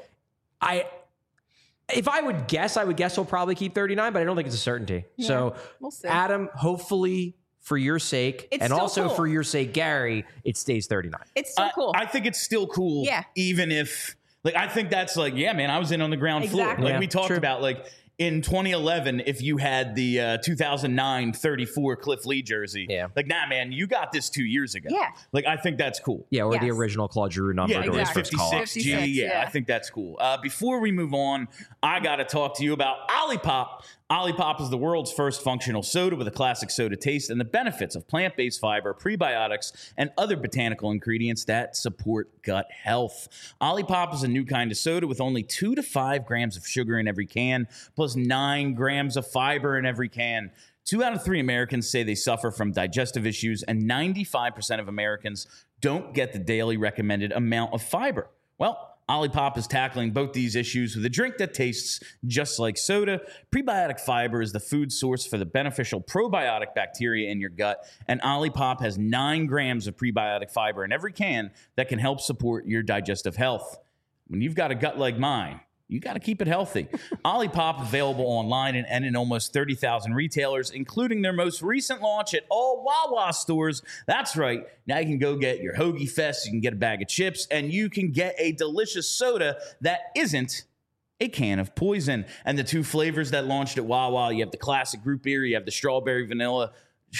if I would guess he'll probably keep 39, but I don't think it's a certainty. Yeah, So we'll see. Adam, hopefully for your sake, It's and still also cool. for your sake, Gary, it stays 39. It's so cool. I think it's still cool. Yeah. Even if, like, I think that's like, yeah, man, I was in on the ground floor. Exactly. Like Yeah, we talked true. about, like, in 2011 if you had the 2009 34 Cliff Lee jersey. Yeah. Like, nah, man, you got this 2 years ago. Yeah. Like, I think that's cool. Yeah, or the Yes. original Claude Giroux number. Yeah, to his exactly. first call-up. 56G. 56, Yeah, yeah. I think that's cool. Before we move on, I got to talk to you about Olipop. Olipop is the world's first functional soda with a classic soda taste and the benefits of plant-based fiber, prebiotics, and other botanical ingredients that support gut health. Olipop is a new kind of soda with only 2 to 5 grams of sugar in every can, plus 9 grams of fiber in every can. 2 out of 3 Americans say they suffer from digestive issues, and 95% of Americans don't get the daily recommended amount of fiber. Well, Olipop is tackling both these issues with a drink that tastes just like soda. Prebiotic fiber is the food source for the beneficial probiotic bacteria in your gut, and Olipop has 9 grams of prebiotic fiber in every can that can help support your digestive health. When you've got a gut like mine, you got to keep it healthy. Olipop available online and in almost 30,000 retailers, including their most recent launch at all Wawa stores. That's right. Now you can go get your Hoagie Fest, you can get a bag of chips, and you can get a delicious soda that isn't a can of poison. And the 2 flavors that launched at Wawa, you have the classic root beer, you have the strawberry vanilla.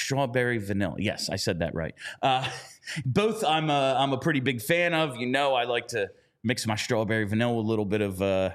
Yes, I said that right. Both I'm a pretty big fan of. You know, I like to mix my strawberry vanilla with a little bit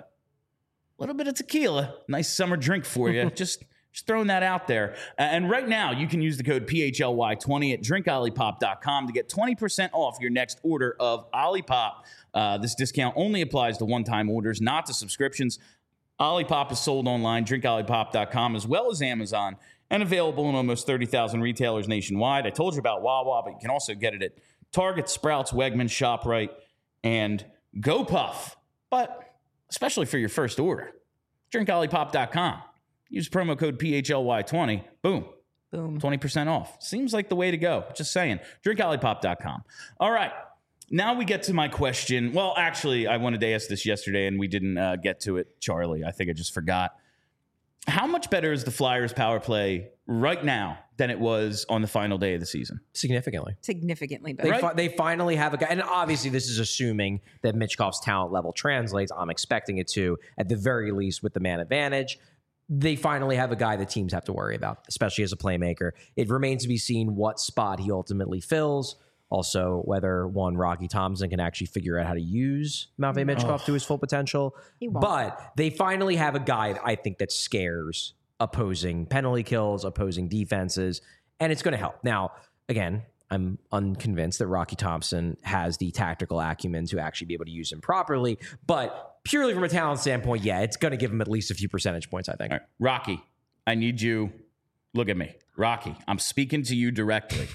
of tequila. Nice summer drink for you. Just throwing that out there. And right now, you can use the code PHLY20 at drinkolipop.com to get 20% off your next order of Olipop. This discount only applies to one-time orders, not to subscriptions. Olipop is sold online, drinkolipop.com, as well as Amazon, and available in almost 30,000 retailers nationwide. I told you about Wawa, but you can also get it at Target, Sprouts, Wegmans, ShopRite, and GoPuff. But especially for your first order, drinkolipop.com. Use promo code PHLY20. Boom. 20% off. Seems like the way to go. Just saying. Drinkolipop.com. All right. Now we get to my question. Well, actually, I wanted to ask this yesterday, and we didn't get to it, Charlie. I think I just forgot. How much better is the Flyers power play right now than it was on the final day of the season? Significantly. Significantly better. They finally have a guy, and obviously this is assuming that Michkov's talent level translates. I'm expecting it to, at the very least, with the man advantage. They finally have a guy that teams have to worry about, especially as a playmaker. It remains to be seen what spot he ultimately fills. Also, whether Rocky Thompson can actually figure out how to use Matvei Michkov to his full potential. He won't. But they finally have a guy, I think, that scares opposing penalty kills, opposing defenses, and it's going to help. Now, again, I'm unconvinced that Rocky Thompson has the tactical acumen to actually be able to use him properly, but purely from a talent standpoint, yeah, it's going to give him at least a few percentage points, I think. All right. Rocky, I need you. Look at me. Rocky, I'm speaking to you directly.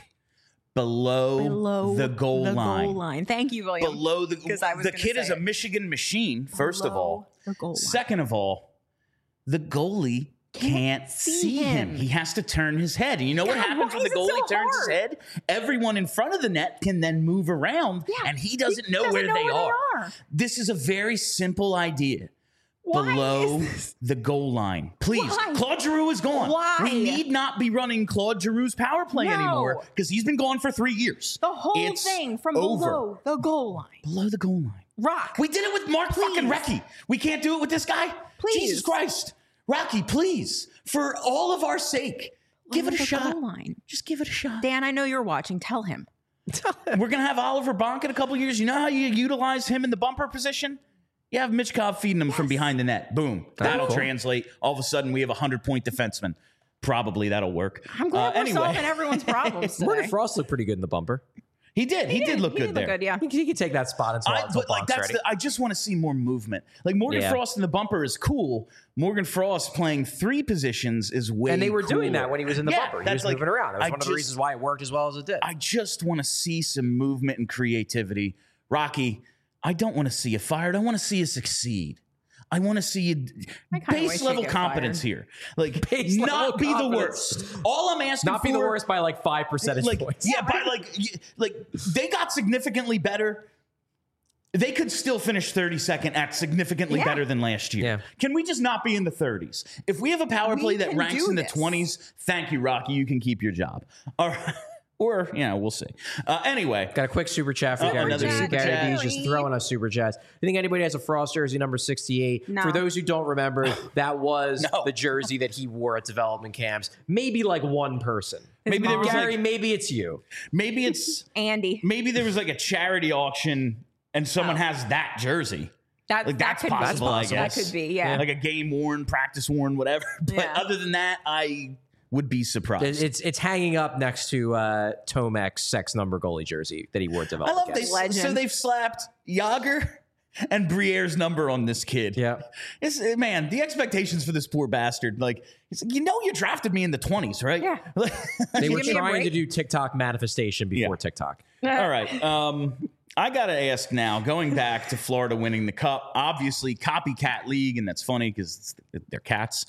Below the goal line. Thank you, William. Below the the kid is a Michigan machine, first of all. The goal line. Second of all, the goalie can't see him. He has to turn his head. And you know what happens when the goalie turns his head? Everyone in front of the net can then move around, and he doesn't know where they are. This is a very simple idea. Below the goal line. Please. Why? Claude Giroux is gone. Why? We need not be running Claude Giroux's power play anymore because he's been gone for 3 years. The whole thing from below the goal line. Below the goal line. Rock. We did it with Mark fucking Recchi. We can't do it with this guy? Please. Jesus Christ. Rocky, please. For all of our sake, give it a shot. Goal line. Just give it a shot. Dan, I know you're watching. Tell him. We're going to have Oliver Bonk in a couple years. You know how you utilize him in the bumper position? You have Michkov feeding him from behind the net. Boom. That'll translate. All of a sudden, we have a 100-point defenseman. Probably that'll work. I'm glad we're solving everyone's problems today. Morgan Frost looked pretty good in the bumper. He did. He did look good there. Look good, yeah. He could take that spot until Bonk's ready. I just want to see more movement. Like Morgan Frost in the bumper is cool. Morgan Frost playing 3 positions is way And they were doing cooler. that when he was in the bumper. He was moving around. That was one of the reasons why it worked as well as it did. I just want to see some movement and creativity. Rocky, I don't want to see you fired. I want to see you succeed. I want to see you base level competence here. Like, not be the worst. All I'm asking for. Not be the worst by like 5 percentage points. Yeah, by like they got significantly better. They could still finish 32nd at significantly better than last year. Yeah. Can we just not be in the 30s? If we have a power play that ranks in the 20s, thank you, Rocky. You can keep your job. All right. Or, we'll see. Anyway. Got a quick super chat for Gary another D. super Gary chat. D's just throwing us super chats. You think anybody has a Frost jersey number 68? No. For those who don't remember, that was No. the jersey that he wore at development camps. Maybe like one person. Maybe there was Gary, like, maybe it's you. maybe it's, Andy. maybe there was like a charity auction and someone has that jersey. That That's could be. possible, I guess. That could be, yeah. Like a game worn, practice worn, whatever. But Yeah. other than that, I would be surprised. It's hanging up next to Tomek's sex number goalie jersey that he wore at I development love camps. Legend. So they've slapped Yager and Briere's number on this kid. Yeah. Man, the expectations for this poor bastard. Like, it's like, you drafted me in the 20s, right? Yeah. They were Give me a trying to break. do TikTok manifestation before Yeah. TikTok. All right. I got to ask now, going back to Florida winning the cup, obviously copycat league, and that's funny because they're cats.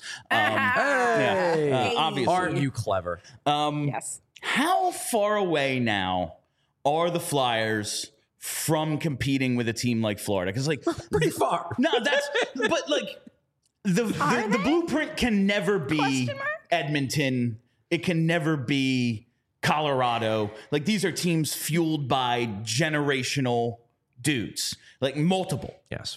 Hey. Obviously. Aren't you clever? Yes. How far away now are the Flyers from competing with a team like Florida? Because, like, Pretty far. no, but like the blueprint can never be Question mark? Edmonton. It can never be Colorado. Like, these are teams fueled by generational dudes, like multiple. Yes.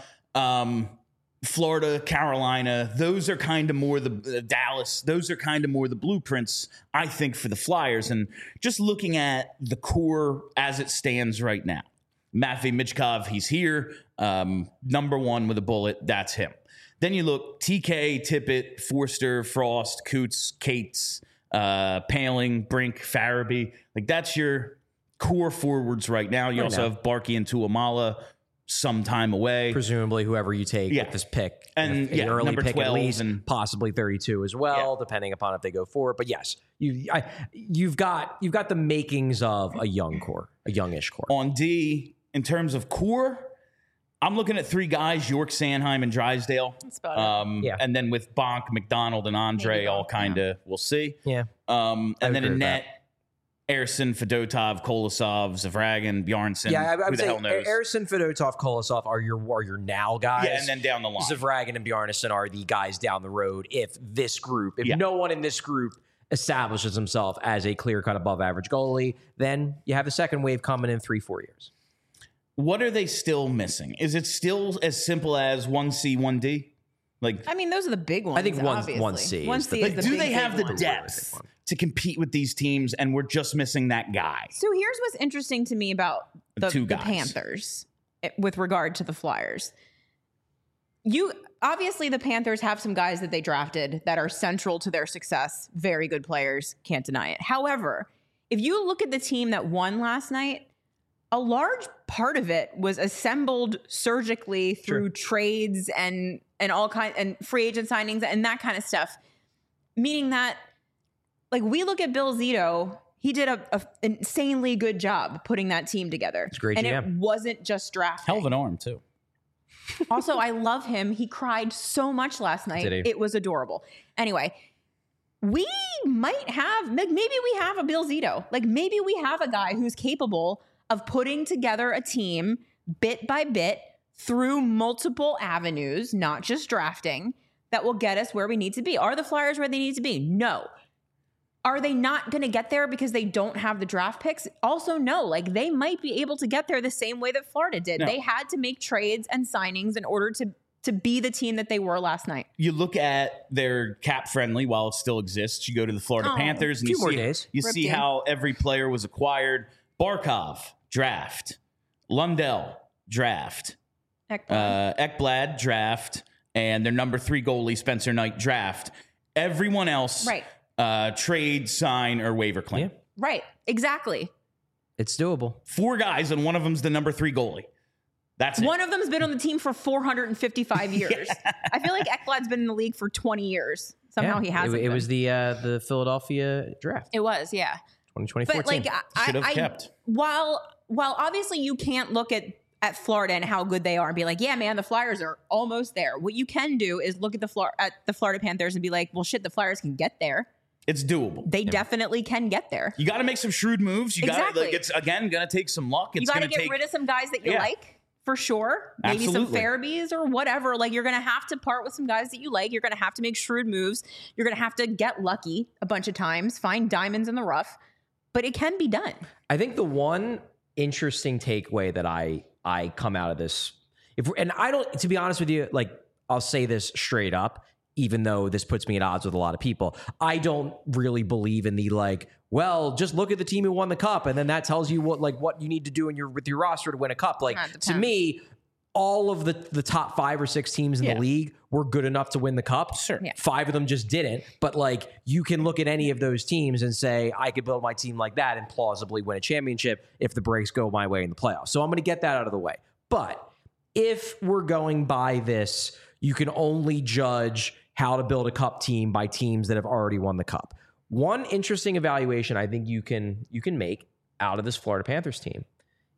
Florida, Carolina, those are kind of more the Dallas. Those are kind of more the blueprints, I think, for the Flyers. And just looking at the core as it stands right now, Matvei Michkov, he's here. Number one with a bullet, that's him. Then you look TK, Tippett, Forster, Frost, Coots, Cates, Paling, Brink, Farabee. Like, that's your core forwards right now. You also have Barkey and Tuamala some time away. Presumably, whoever you take Yeah. with this pick, And, an yeah, early number pick 12 at least, and- possibly 32 as well, depending upon if they go forward. But yes, you've got the makings of a young core, a youngish core. On D, in terms of core, I'm looking at three guys: York, Sanheim, and Drysdale. That's about it. Yeah. And then with Bonk, McDonald, and Andre, Maybe all Bonk, kind of, we'll see. Yeah, And I then agree in with net, Erson, Fedotov, Kolosov, Zavragan, Bjarnson. yeah. I who would the say hell knows? Erson, Fedotov, Kolosov are your now guys. Yeah, and then down the line. Zavragan and Bjarnason are the guys down the road. If no one in this group establishes himself as a clear-cut above-average goalie, then you have the second wave coming in 3-4 years. What are they still missing? Is it still as simple as 1C, 1D? Like, I mean, those are the big ones. I think one- obviously. 1C is 1C the- is the do big, they have big the one. depth to compete with these teams, and we're just missing that guy? So here's what's interesting to me about the two guys. Panthers with regard to the Flyers. Obviously the Panthers have some guys that they drafted that are central to their success. Very good players, can't deny it. However, if you look at the team that won last night, a large part of it was assembled surgically through trades and all kind and free agent signings and that kind of stuff. Meaning that, like, we look at Bill Zito, he did an insanely good job putting that team together. It's a great and GM. it wasn't just drafting. Hell of an arm, too. Also, I love him. He cried so much last night. Did he? It was adorable. Anyway, we might have, maybe we have a Bill Zito. Like, maybe we have a guy who's capable of putting together a team bit by bit through multiple avenues, not just drafting, that will get us where we need to be. Are the Flyers where they need to be? No. Are they not going to get there because they don't have the draft picks? Also, no. Like, they might be able to get there the same way that Florida did. No. They had to make trades and signings in order to be the team that they were last night. You look at their cap friendly while it still exists. You go to the Florida Oh, Panthers and few you more see, days. you Ripped see in. how every player was acquired. Barkov, draft. Lundell, draft. Ekblad, draft. And their number 3 goalie, Spencer Knight, draft. Everyone else, Right. trade, sign, or waiver claim. Yeah. Right. Exactly. It's doable. 4 guys, and one of them's the number 3 goalie. That's it. One of them's been on the team for 455 years. I feel like Ekblad's been in the league for 20 years. Somehow he hasn't. It was the Philadelphia draft, It was, yeah. 2014. But like, Should have kept. While obviously you can't look at Florida and how good they are and be like, yeah, man, the Flyers are almost there. What you can do is look at the Florida Panthers and be like, well, shit, the Flyers can get there. It's doable. They definitely can get there. You got to make some shrewd moves. You got to, Exactly. like, it's again going to take some luck. It's You got to going to get take rid of some guys that you Yeah. like, for sure. Maybe some Absolutely. Farabees or whatever. Like, you're going to have to part with some guys that you like. You're going to have to make shrewd moves. You're going to have to get lucky a bunch of times, find diamonds in the rough. but it can be done. I think the one interesting takeaway that I come out of this, and I don't, to be honest with you, like I'll say this straight up, even though this puts me at odds with a lot of people, I don't really believe in the like, well, just look at the team who won the cup, and then that tells you what you need to do with your roster to win a cup. Like to me, all of the top 5 or 6 teams in the league were good enough to win the cup. Sure. Yeah. 5 of them just didn't. But like you can look at any of those teams and say, I could build my team like that and plausibly win a championship if the breaks go my way in the playoffs. So I'm going to get that out of the way. But if we're going by this, you can only judge how to build a cup team by teams that have already won the cup. One interesting evaluation I think you can make out of this Florida Panthers team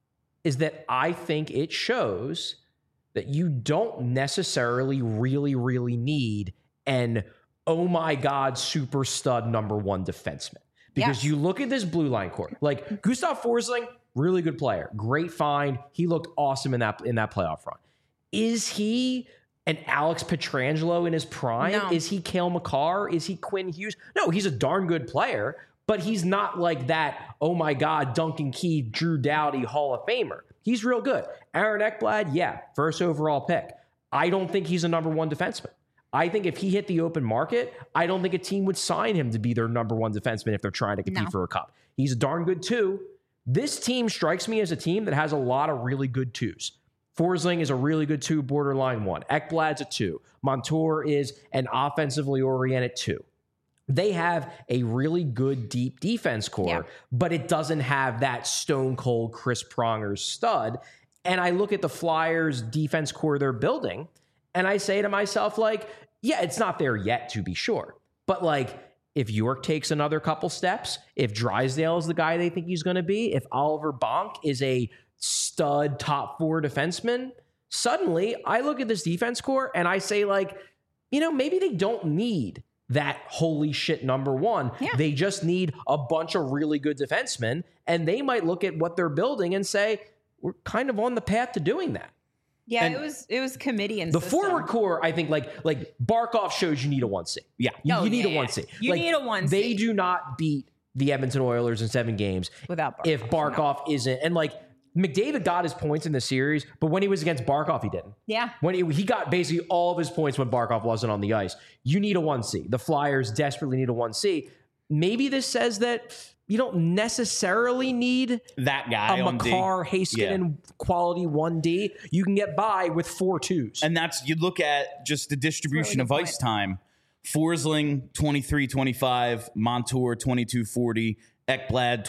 is that I think it shows that you don't necessarily really need an, oh my God, super stud number 1 defenseman. Because you look at this blue line core, like Gustav Forsling, really good player, great find. He looked awesome in that playoff run. Is he an Alex Pietrangelo in his prime? No. Is he Cale Makar? Is he Quinn Hughes? No, he's a darn good player, but he's not like that, oh my God, Duncan Keith, Drew Doughty, Hall of Famer. He's real good. Aaron Ekblad, first overall pick. I don't think he's a number 1 defenseman. I think if he hit the open market, I don't think a team would sign him to be their number 1 defenseman if they're trying to compete for a cup. He's a darn good 2. This team strikes me as a team that has a lot of really good 2s. Forsling is a really good 2, borderline 1. Ekblad's a 2. Montour is an offensively oriented 2. They have a really good deep defense core, but it doesn't have that stone cold Chris Pronger stud. And I look at the Flyers defense core they're building and I say to myself, like, yeah, it's not there yet to be sure. But like, if York takes another couple steps, if Drysdale is the guy they think he's going to be, if Oliver Bonk is a stud top 4 defenseman, suddenly I look at this defense core and I say like, maybe they don't need that holy shit number 1. Yeah. They just need a bunch of really good defensemen, and they might look at what they're building and say, we're kind of on the path to doing that. Yeah, and it was committee and the system. forward core, I think like Barkov shows you need a 1C. Yeah. You need a 1C. You need a 1C. They do not beat the Edmonton Oilers in 7 games without Barkov. If Barkov isn't, and like McDavid got his points in the series, but when he was against Barkov, he didn't. Yeah. When he got basically all of his points when Barkov wasn't on the ice. You need a 1C. The Flyers desperately need a 1C. Maybe this says that you don't necessarily need that guy, a Makar, Heiskanen quality 1D. You can get by with 4 2s. And you look at just the distribution of ice time. Forsling, 23-25, Montour, 22-40, Ekblad,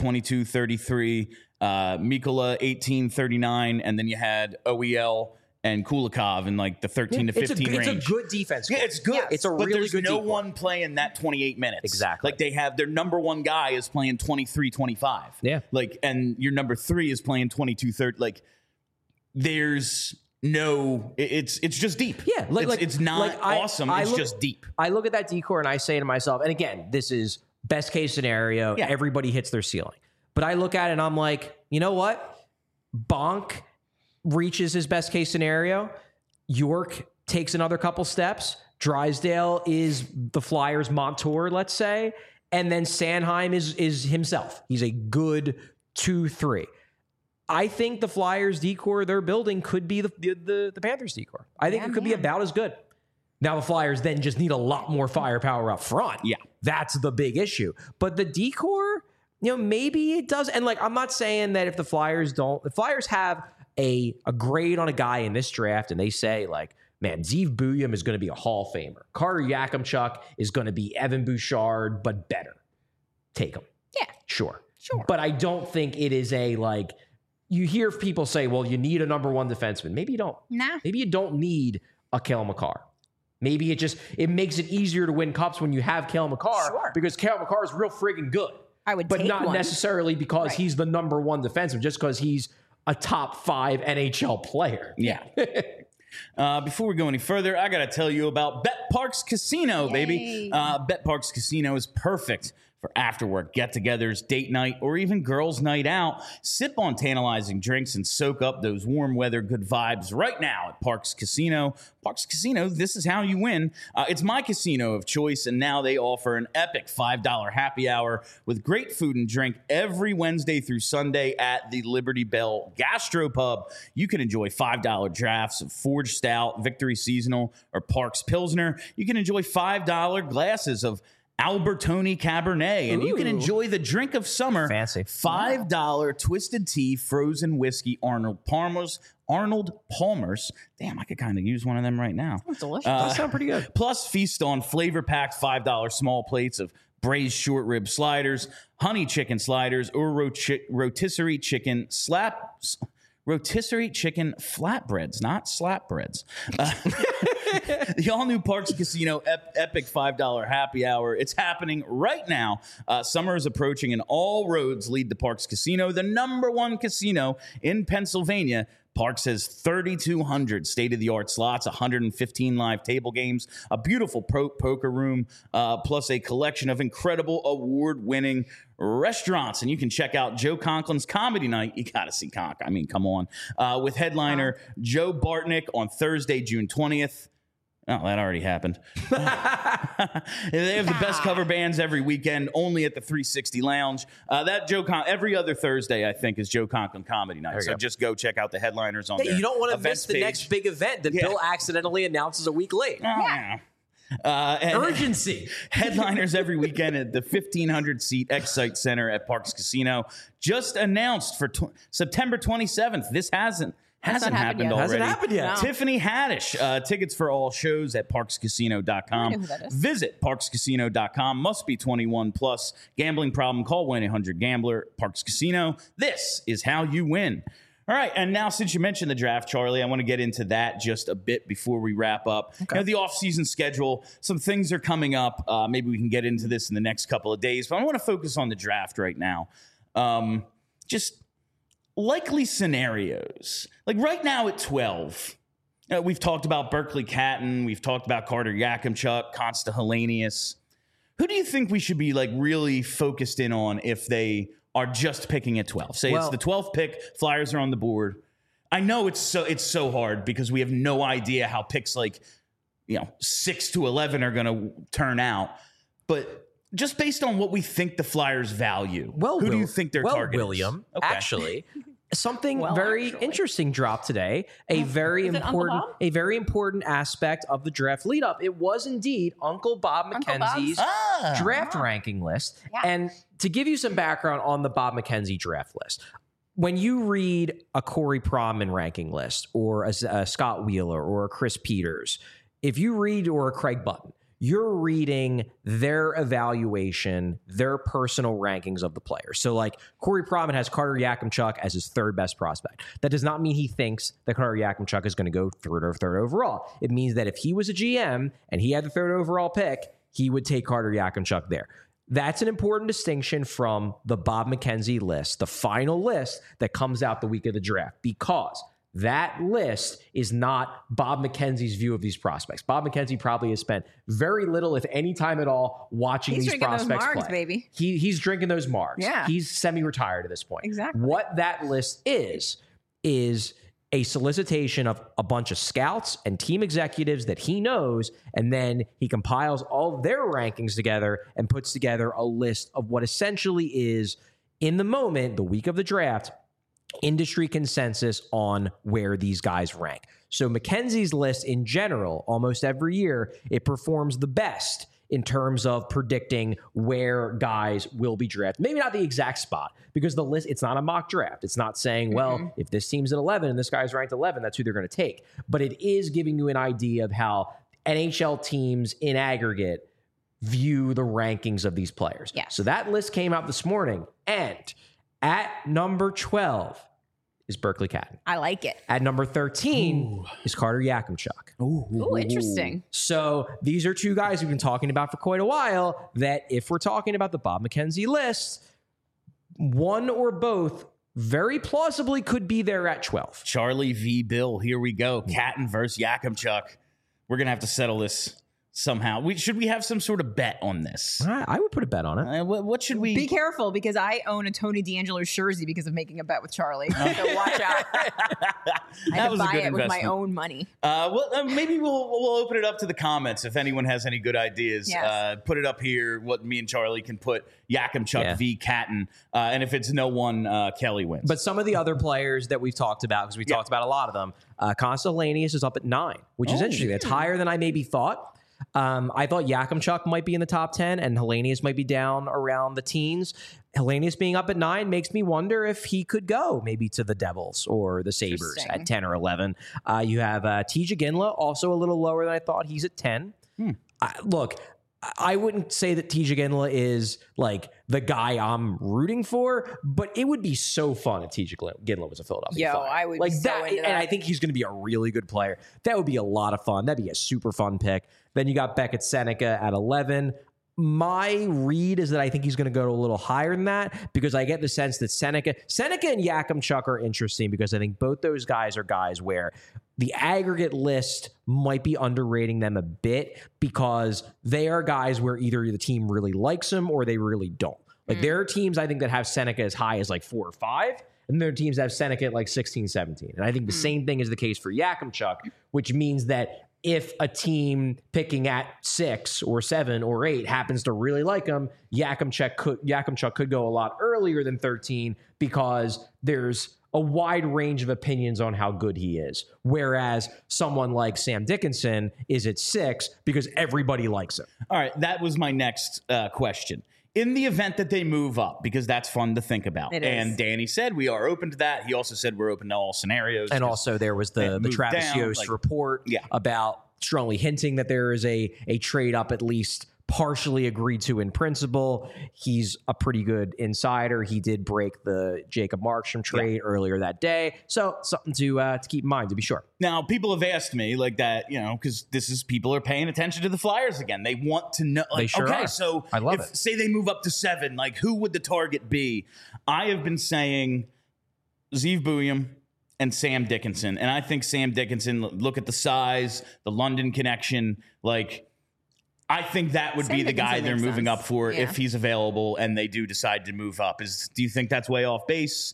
22-33, Mikkola, 18-39, and then you had OEL and Kulikov in like the 13 to 15 range. It's a good defense. Yeah, it's good. Yes. It's a but really there's good no defense. one playing that 28 minutes. Exactly. Like they have their number 1 guy is playing 23-25. Yeah. Like, and your number 3 is playing 22-30. Like there's no, it's just deep. Yeah. It's not awesome. It's just deep. I look at that decor and I say to myself, and again, this is best case scenario. Yeah. Everybody hits their ceiling. But I look at it and I'm like, you know what? Bonk reaches his best case scenario. York takes another couple steps. Drysdale is the Flyers' Montour, let's say. And then Sanheim is himself. He's a good 2-3. I think the Flyers decor they're building could be the Panthers decor. I think it could be about as good. Now the Flyers then just need a lot more firepower up front. Yeah. That's the big issue. But the decor, maybe it does. And like, I'm not saying that if the Flyers have a grade on a guy in this draft and they say like, man, Zeev Buium is going to be a Hall of Famer. Carter Yakimchuk is going to be Evan Bouchard, but better. Take him. Yeah. Sure. But I don't think it is a like, you hear people say, well, you need a number 1 defenseman. Maybe you don't. Nah. Maybe you don't need a Cale Makar. Maybe it makes it easier to win cups when you have Cale Makar because Cale Makar is real friggin' good. But take not one. necessarily because he's the number 1 defenseman, just because he's a top 5 NHL player. Yeah. Before we go any further, I got to tell you about Bet Parks Casino, baby. Bet Parks Casino is perfect for after-work get-togethers, date night, or even girls' night out. Sip on tantalizing drinks and soak up those warm weather good vibes right now at Parx Casino. Parx Casino, this is how you win. It's my casino of choice, and now they offer an epic $5 happy hour with great food and drink every Wednesday through Sunday at the Liberty Bell Gastropub. You can enjoy $5 drafts of Forged Stout, Victory Seasonal, or Parx Pilsner. You can enjoy $5 glasses of Albertoni Cabernet, and you can enjoy the drink of summer. Fancy. $5 Twisted Tea Frozen Whiskey Arnold Palmer's. Damn, I could kind of use one of them right now. That's delicious. That sounds pretty good. Plus, feast on flavor-packed $5 small plates of braised short rib sliders, honey chicken sliders, or rotisserie chicken flatbreads, not slapbreads. The all-new Parx Casino epic $5 happy hour. It's happening right now. Summer is approaching, and all roads lead to Parx Casino, the +1 casino in Pennsylvania. Parx has 3,200 state-of-the-art slots, 115 live table games, a beautiful poker room, plus a collection of incredible award-winning restaurants. And you can check out Joe Conklin's Comedy Night. You got to see Conk. I mean, come on. With headliner Joe Bartnick on Thursday, June 20th. Oh, that already happened. They have the best cover bands every weekend, only at the 360 Lounge. Every other Thursday, I think, is Joe Conklin Comedy Night. So just go check out the headliners on there. You don't want to miss the next big event that Bill accidentally announces a week late. Urgency. Headliners every weekend at the 1,500-seat Excite Center at Parx Casino. Just announced for September 27th. This hasn't happened already. Hasn't happened yet. No. Tiffany Haddish. Tickets for all shows at parxcasino.com. I know who that is. Visit parxcasino.com. Must be 21 plus. Gambling problem? Call 1-800-GAMBLER. Parx Casino. This is how you win. All right, and now since you mentioned the draft, Charlie, I want to get into that just a bit before we wrap up. Okay. The off-season schedule, some things are coming up. Maybe we can get into this in the next couple of days, but I want to focus on the draft right now. Just likely scenarios. Like right now at 12, we've talked about Berkeley Catton. We've talked about Carter Yakimchuk, Consta Helenius. Who do you think we should be like really focused in on if they are just picking at 12? Say it's the 12th pick, Flyers are on the board. I know it's so hard because we have no idea how picks 6 to 11 are going to turn out. But just based on what we think the Flyers value, who do you think their target is? William, actually, Something very interesting dropped today. A very important aspect of the draft lead up. It was indeed Uncle Bob McKenzie's draft ranking list. Yeah. And to give you some background on the Bob McKenzie draft list, when you read a Corey Pronman ranking list or a Scott Wheeler or a Chris Peters, if you read or a Craig Button, you're reading their evaluation, their personal rankings of the players. So like Corey Pronman has Carter Yakimchuk as his third best prospect. That does not mean he thinks that Carter Yakimchuk is going to go third overall. It means that if he was a GM and he had the third overall pick, he would take Carter Yakimchuk there. That's an important distinction from the Bob McKenzie list, the final list that comes out the week of the draft, because that list is not Bob McKenzie's view of these prospects. Bob McKenzie probably has spent very little, if any time at all, watching these prospects those margs, play. Baby. He's drinking those margs. Yeah. He's semi-retired at this point. Exactly. What that list is a solicitation of a bunch of scouts and team executives that he knows, and then he compiles all of their rankings together and puts together a list of what essentially is, in the moment, the week of the draft, industry consensus on where these guys rank. So McKenzie's list in general, almost every year, it performs the best in terms of predicting where guys will be drafted. Maybe not the exact spot, because the list, it's not a mock draft. It's not saying, well, if this team's at 11 and this guy's ranked 11, that's who they're going to take. But it is giving you an idea of how NHL teams in aggregate view the rankings of these players. Yes. So that list came out this morning, and at number 12 is Berkeley Catton. I like it. At number 13 is Carter Yakimchuk. Ooh, interesting. So these are two guys we've been talking about for quite a while that if we're talking about the Bob McKenzie list, one or both very plausibly could be there at 12. Charlie v. Bill. Here we go. Catton versus Yakimchuk. We're going to have to settle this somehow. Should we have some sort of bet on this? I would put a bet on it. What should we? Be careful because I own a Tony D'Angelo jersey because of making a bet with Charlie. So watch out. I had to buy it with my own money. Maybe we'll open it up to the comments if anyone has any good ideas. Yes. Put it up here. What me and Charlie can put Yakimchuk v. Catton, and if it's no one, Kelly wins. But some of the other players that we've talked about, because we talked about a lot of them, Constellanius is up at 9, which is interesting. That's higher than I maybe thought. I thought Yakimchuk might be in the top 10 and Hellenius might be down around the teens. Hellenius being up at 9 makes me wonder if he could go maybe to the Devils or the Sabres at 10 or 11. You have T.J. Ginla, also a little lower than I thought. He's at 10. Look, I wouldn't say that T.J. Ginla is like the guy I'm rooting for, but it would be so fun if T.J. Ginla was a Philadelphia Flyer. I would like be so into that. And I think he's going to be a really good player. That would be a lot of fun. That'd be a super fun pick. Then you got Beckett Seneca at 11. My read is that I think he's going to go a little higher than that because I get the sense that Seneca and Yakimchuk are interesting because I think both those guys are guys where the aggregate list might be underrating them a bit because they are guys where either the team really likes them or they really don't. Like there are teams I think that have Seneca as high as like 4 or 5, and there are teams that have Seneca at like 16, 17. And I think the same thing is the case for Yakimchuk, which means that if a team picking at 6 or 7 or 8 happens to really like him, Yakimchuk could go a lot earlier than 13 because there's a wide range of opinions on how good he is. Whereas someone like Sam Dickinson is at 6 because everybody likes him. All right, that was my next question. In the event that they move up, because that's fun to think about. And Danny said we are open to that. He also said we're open to all scenarios. And also there was the Travis Yost report about strongly hinting that there is a trade up at least partially agreed to in principle. He's a pretty good insider. He did break the Jacob Markstrom trade earlier that day. So something to keep in mind, to be sure. Now, people have asked me like that, because people are paying attention to the Flyers again. They want to know. Like, they sure are. So I love it. Say they move up to 7, like who would the target be? I have been saying Zeev Buium and Sam Dickinson. And I think Sam Dickinson, look at the size, the London connection, I think that would be the guy they're moving up for if he's available and they do decide to move up. Do you think that's way off base?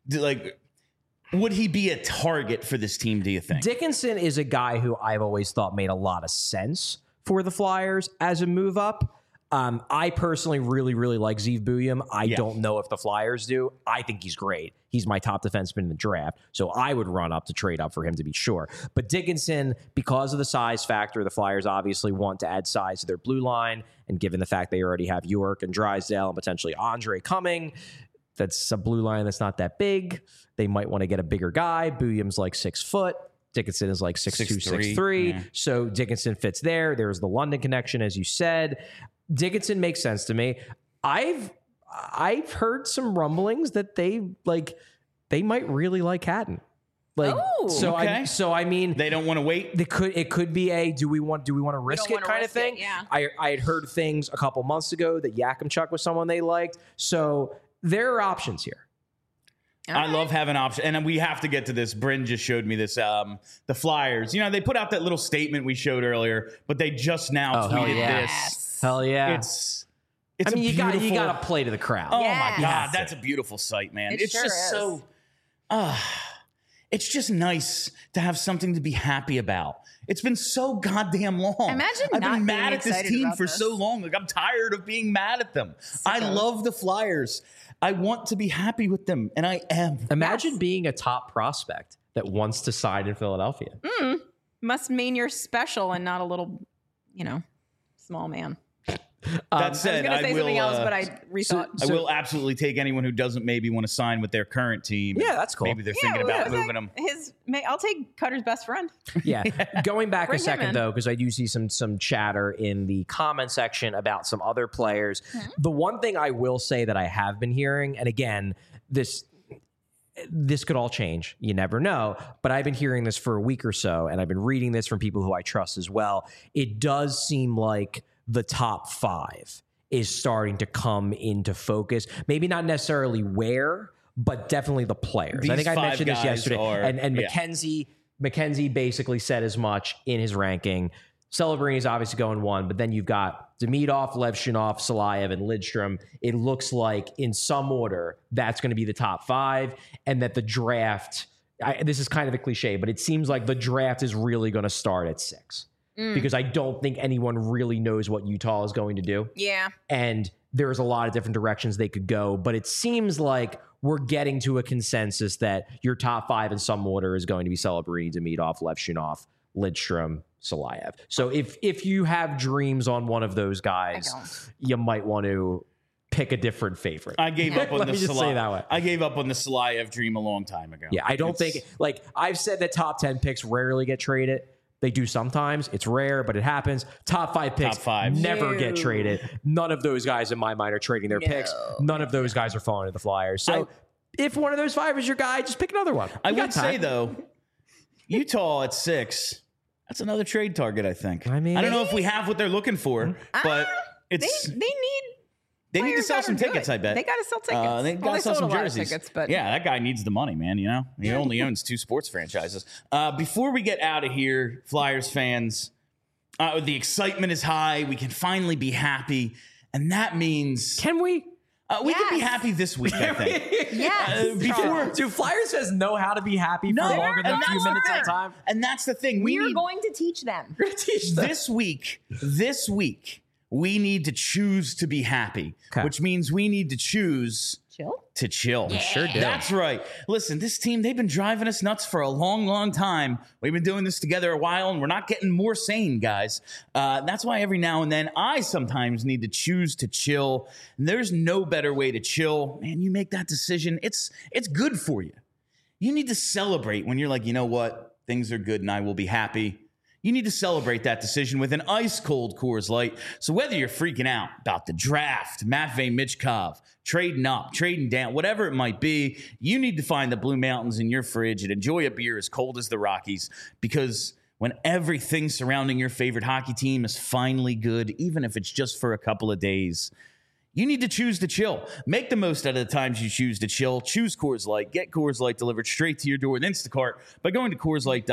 Would he be a target for this team, do you think? Dickinson is a guy who I've always thought made a lot of sense for the Flyers as a move up. I personally really, really like Zeev Buium. I don't know if the Flyers do. I think he's great. He's my top defenseman in the draft, so I would run up to trade up for him to be sure. But Dickinson, because of the size factor, the Flyers obviously want to add size to their blue line, and given the fact they already have York and Drysdale and potentially Andre coming, that's a blue line that's not that big. They might want to get a bigger guy. Buium's like 6 foot. Dickinson is like 6'2", 6'3". So Dickinson fits there. There's the London connection, as you said. Dickinson makes sense to me. I've heard some rumblings that they might really like Hatton. I mean, they don't want to wait. It could be a do we want to risk it kind of thing. I had heard things a couple months ago that Yakimchuk was someone they liked. So there are options here. I love having options. And we have to get to this. Bryn just showed me this. The Flyers, they put out that little statement we showed earlier, but they just now tweeted this. Hell yeah. It's you got to play to the crowd. Oh my God. That's a beautiful sight, man. It's sure just is. so, it's just nice to have something to be happy about. It's been so goddamn long. Imagine I've not been mad being at this excited team about for this. so long. I'm tired of being mad at them. I love the Flyers. I want to be happy with them, and I am. Imagine being a top prospect that wants to sign in Philadelphia. Must mean you're special and not a little, small man. That said, I was going to say something else, but I rethought. I will absolutely take anyone who doesn't maybe want to sign with their current team. Yeah, that's cool. Maybe they're thinking about moving them. I'll take Cutter's best friend. Yeah. Going back Bring a him second, in. though, because I do see some chatter in the comment section about some other players. The one thing I will say that I have been hearing, and again, this could all change. You never know. But I've been hearing this for a week or so, and I've been reading this from people who I trust as well. It does seem like the top 5 is starting to come into focus. Maybe not necessarily where, but definitely the players. I think I mentioned this yesterday. And McKenzie basically said as much in his ranking. Celebrini's obviously going 1, but then you've got Demidov, Levshunov, Salayev, and Lidstrom. It looks like in some order that's going to be the top 5, and that the draft, this is kind of a cliche, but it seems like the draft is really going to start at 6 because I don't think anyone really knows what Utah is going to do. Yeah. And there's a lot of different directions they could go, but it seems like we're getting to a consensus that your top 5 in some order is going to be Celebrini, Demidov, Levshunov, Lidstrom, Salayev. So if you have dreams on one of those guys, you might want to pick a different favorite. I gave up on Let the me just say that way. I gave up on the Salayev dream a long time ago. Yeah, I don't think, like, I've said that top 10 picks rarely get traded. They do sometimes. It's rare, but it happens. Top 5 picks never get traded. None of those guys in my mind are trading their picks. None of those guys are falling to the Flyers. So if one of those 5 is your guy, just pick another one. I would say, though, Utah at 6, that's another trade target, I think. I mean, I don't know if we have what they're looking for, but it's... They need to sell some tickets, I bet. They got to sell tickets. They got to sell some jerseys. Tickets, but yeah, that guy needs the money, man. You know, he only owns 2 sports franchises. Before we get out of here, Flyers fans, the excitement is high. We can finally be happy, and that means can we? We can be happy this week, I think. Yes. Do Flyers fans know how to be happy for longer than a few minutes at a time? And that's the thing. We are going to teach them. We're going to teach them. This week, we need to choose to be happy, which means we need to choose to chill. Yeah. Sure do. That's right. Listen, this team, they've been driving us nuts for a long, long time. We've been doing this together a while, and we're not getting more sane, guys. That's why every now and then I sometimes need to choose to chill. And there's no better way to chill. Man, you make that decision. It's good for you. You need to celebrate when you're like, you know what? Things are good and I will be happy. You need to celebrate that decision with an ice-cold Coors Light. So whether you're freaking out about the draft, Matvei Michkov, trading up, trading down, whatever it might be, you need to find the Blue Mountains in your fridge and enjoy a beer as cold as the Rockies, because when everything surrounding your favorite hockey team is finally good, even if it's just for a couple of days, you need to choose to chill. Make the most out of the times you choose to chill. Choose Coors Light. Get Coors Light delivered straight to your door with Instacart by going to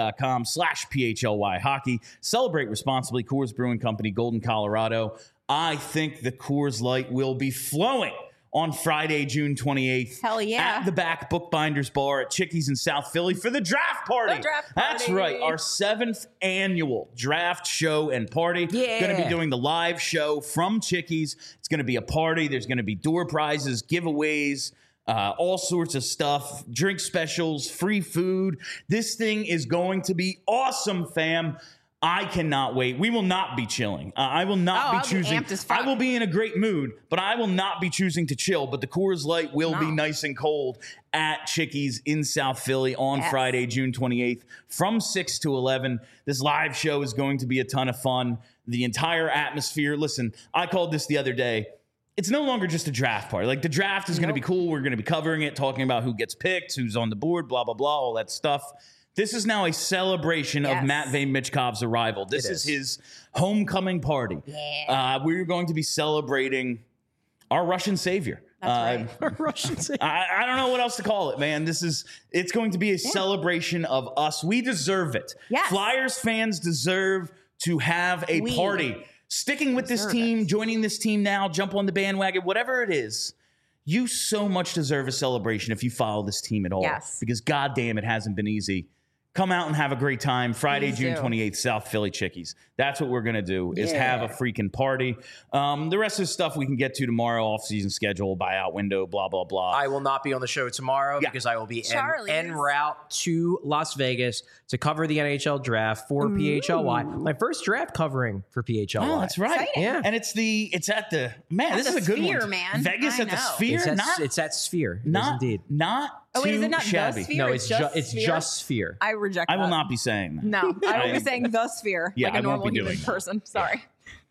CoorsLight.com/PHLY hockey. Celebrate responsibly. Coors Brewing Company, Golden, Colorado. I think the Coors Light will be flowing on Friday, June 28th. Hell yeah. At the Back Bookbinders Bar at Chickies in South Philly for the draft party. That's right. Our 7th annual draft show and party. Yeah. Going to be doing the live show from Chickies. It's going to be a party. There's going to be door prizes, giveaways, all sorts of stuff, drink specials, free food. This thing is going to be awesome, fam. I cannot wait. We will not be chilling. I will not be choosing. I will be in a great mood, but I will not be choosing to chill. But the Coors Light will be nice and cold at Chickies in South Philly on Friday, June 28th from 6 to 11. This live show is going to be a ton of fun. The entire atmosphere. Listen, I called this the other day. It's no longer just a draft party. Like, the draft is going to be cool. We're going to be covering it, talking about who gets picked, who's on the board, blah, blah, blah, all that stuff. This is now a celebration of Matvei Michkov's arrival. This is his homecoming party. Yeah. We're going to be celebrating our Russian savior. That's right. Our Russian savior. I don't know what else to call it, man. It's going to be a celebration of us. We deserve it. Yes. Flyers fans deserve to have a party. Sticking with this team, joining this team now, jump on the bandwagon, whatever it is. You so much deserve a celebration if you follow this team at all. Yes. Because goddamn, it hasn't been easy. Come out and have a great time. Friday, June 28th, South Philly Chickies. That's what we're going to do, is have a freaking party. The rest of the stuff we can get to tomorrow, off-season schedule, buyout window, blah, blah, blah. I will not be on the show tomorrow because I will be en route to Las Vegas to cover the NHL draft for PHLY. My first draft covering for PHLY. Oh, that's right. Exciting. Yeah. And it's at the, man, this is a good Sphere, one. man. Vegas at the Sphere? It's at Sphere. Not, indeed. Not Oh, wait, is too it not shabby. the Sphere? No, it's just Sphere. I reject that. I will not be saying that. No, I will be saying the Sphere, Yeah, like a I won't normal be human doing that. person. Sorry.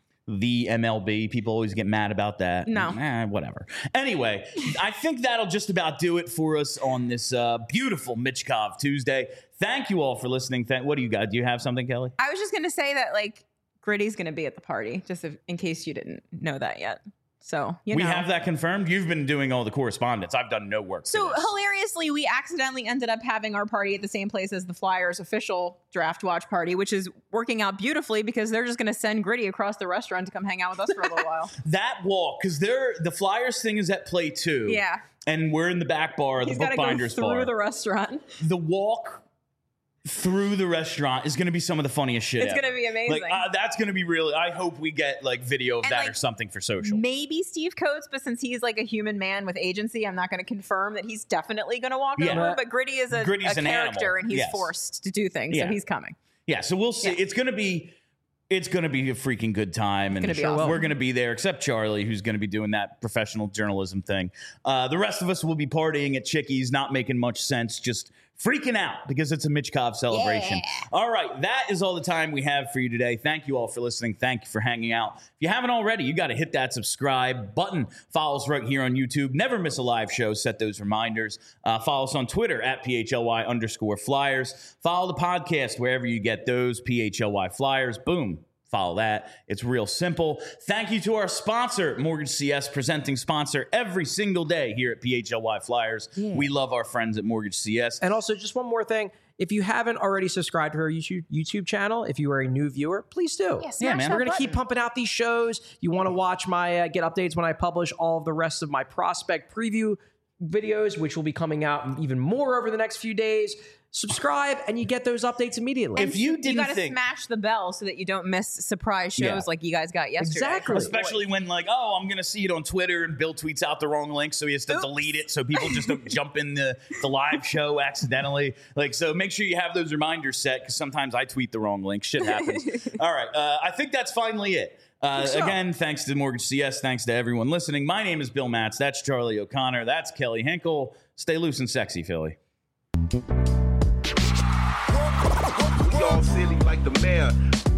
The MLB. People always get mad about that. No. Whatever. Anyway, I think that'll just about do it for us on this beautiful Michkov Tuesday. Thank you all for listening. What do you got? Do you have something, Kelly? I was just going to say that, like, Gritty's going to be at the party, just in case you didn't know that yet. So, you We know. have that confirmed. You've been doing all the correspondence. I've done no work. So for this. hilariously, we accidentally ended up having our party at the same place as the Flyers official draft watch party, which is working out beautifully because they're just going to send Gritty across the restaurant to come hang out with us for a little while. That walk, because the Flyers thing is at play 2. Yeah. And we're in the back bar of the He's got to go Bookbinders through bar. the restaurant. The walk through the restaurant is going to be some of the funniest shit It's ever. going to be amazing. Like, that's going to be really, I hope we get like video of And, that like, or something for social. Maybe Steve Coates, but since he's like a human man with agency, I'm not going to confirm that he's definitely going to walk Yeah. over. But Gritty is a Gritty's an character, animal. and he's Yes. forced to do things, Yeah. so he's coming. Yeah, so we'll see. Yeah. It's going to be a freaking good time, and gonna be awesome. we're going to be there, except Charlie, who's going to be doing that professional journalism thing. The rest of us will be partying at Chickies, not making much sense, just freaking out because it's a Mitch Cobb celebration. Yeah. All right, that is all the time we have for you today. Thank you all for listening. Thank you for hanging out. If you haven't already, you got to hit that subscribe button. Follow us right here on YouTube. Never miss a live show. Set those reminders. Follow us on Twitter at PHLY_Flyers. Follow the podcast wherever you get those, PHLY Flyers. Boom. Follow that. It's real simple. Thank you to our sponsor, Mortgage CS, presenting sponsor every single day here at PHLY Flyers. Yeah. We love our friends at Mortgage CS. And also, just one more thing. If you haven't already subscribed to our YouTube channel, if you are a new viewer, please do. Yeah, man. We're going to keep pumping out these shows. You want to watch my get updates when I publish all of the rest of my prospect preview videos, which will be coming out even more over the next few days. Subscribe, and you get those updates immediately. If you You didn't got to think, smash the bell so that you don't miss surprise shows Yeah. like you guys got yesterday. Exactly. especially when like, oh, I'm going to see it on Twitter and Bill tweets out the wrong link, so he has to Oops. delete it so people just don't jump in the live show accidentally. Like, so make sure you have those reminders set because sometimes I tweet the wrong link. Shit happens. All right. I think that's finally it. so. Again, thanks to Mortgage CS. Thanks to everyone listening. My name is Bill Matz. That's Charlie O'Connor. That's Kelly Hinkle. Stay loose and sexy, Philly. We all silly like the mayor.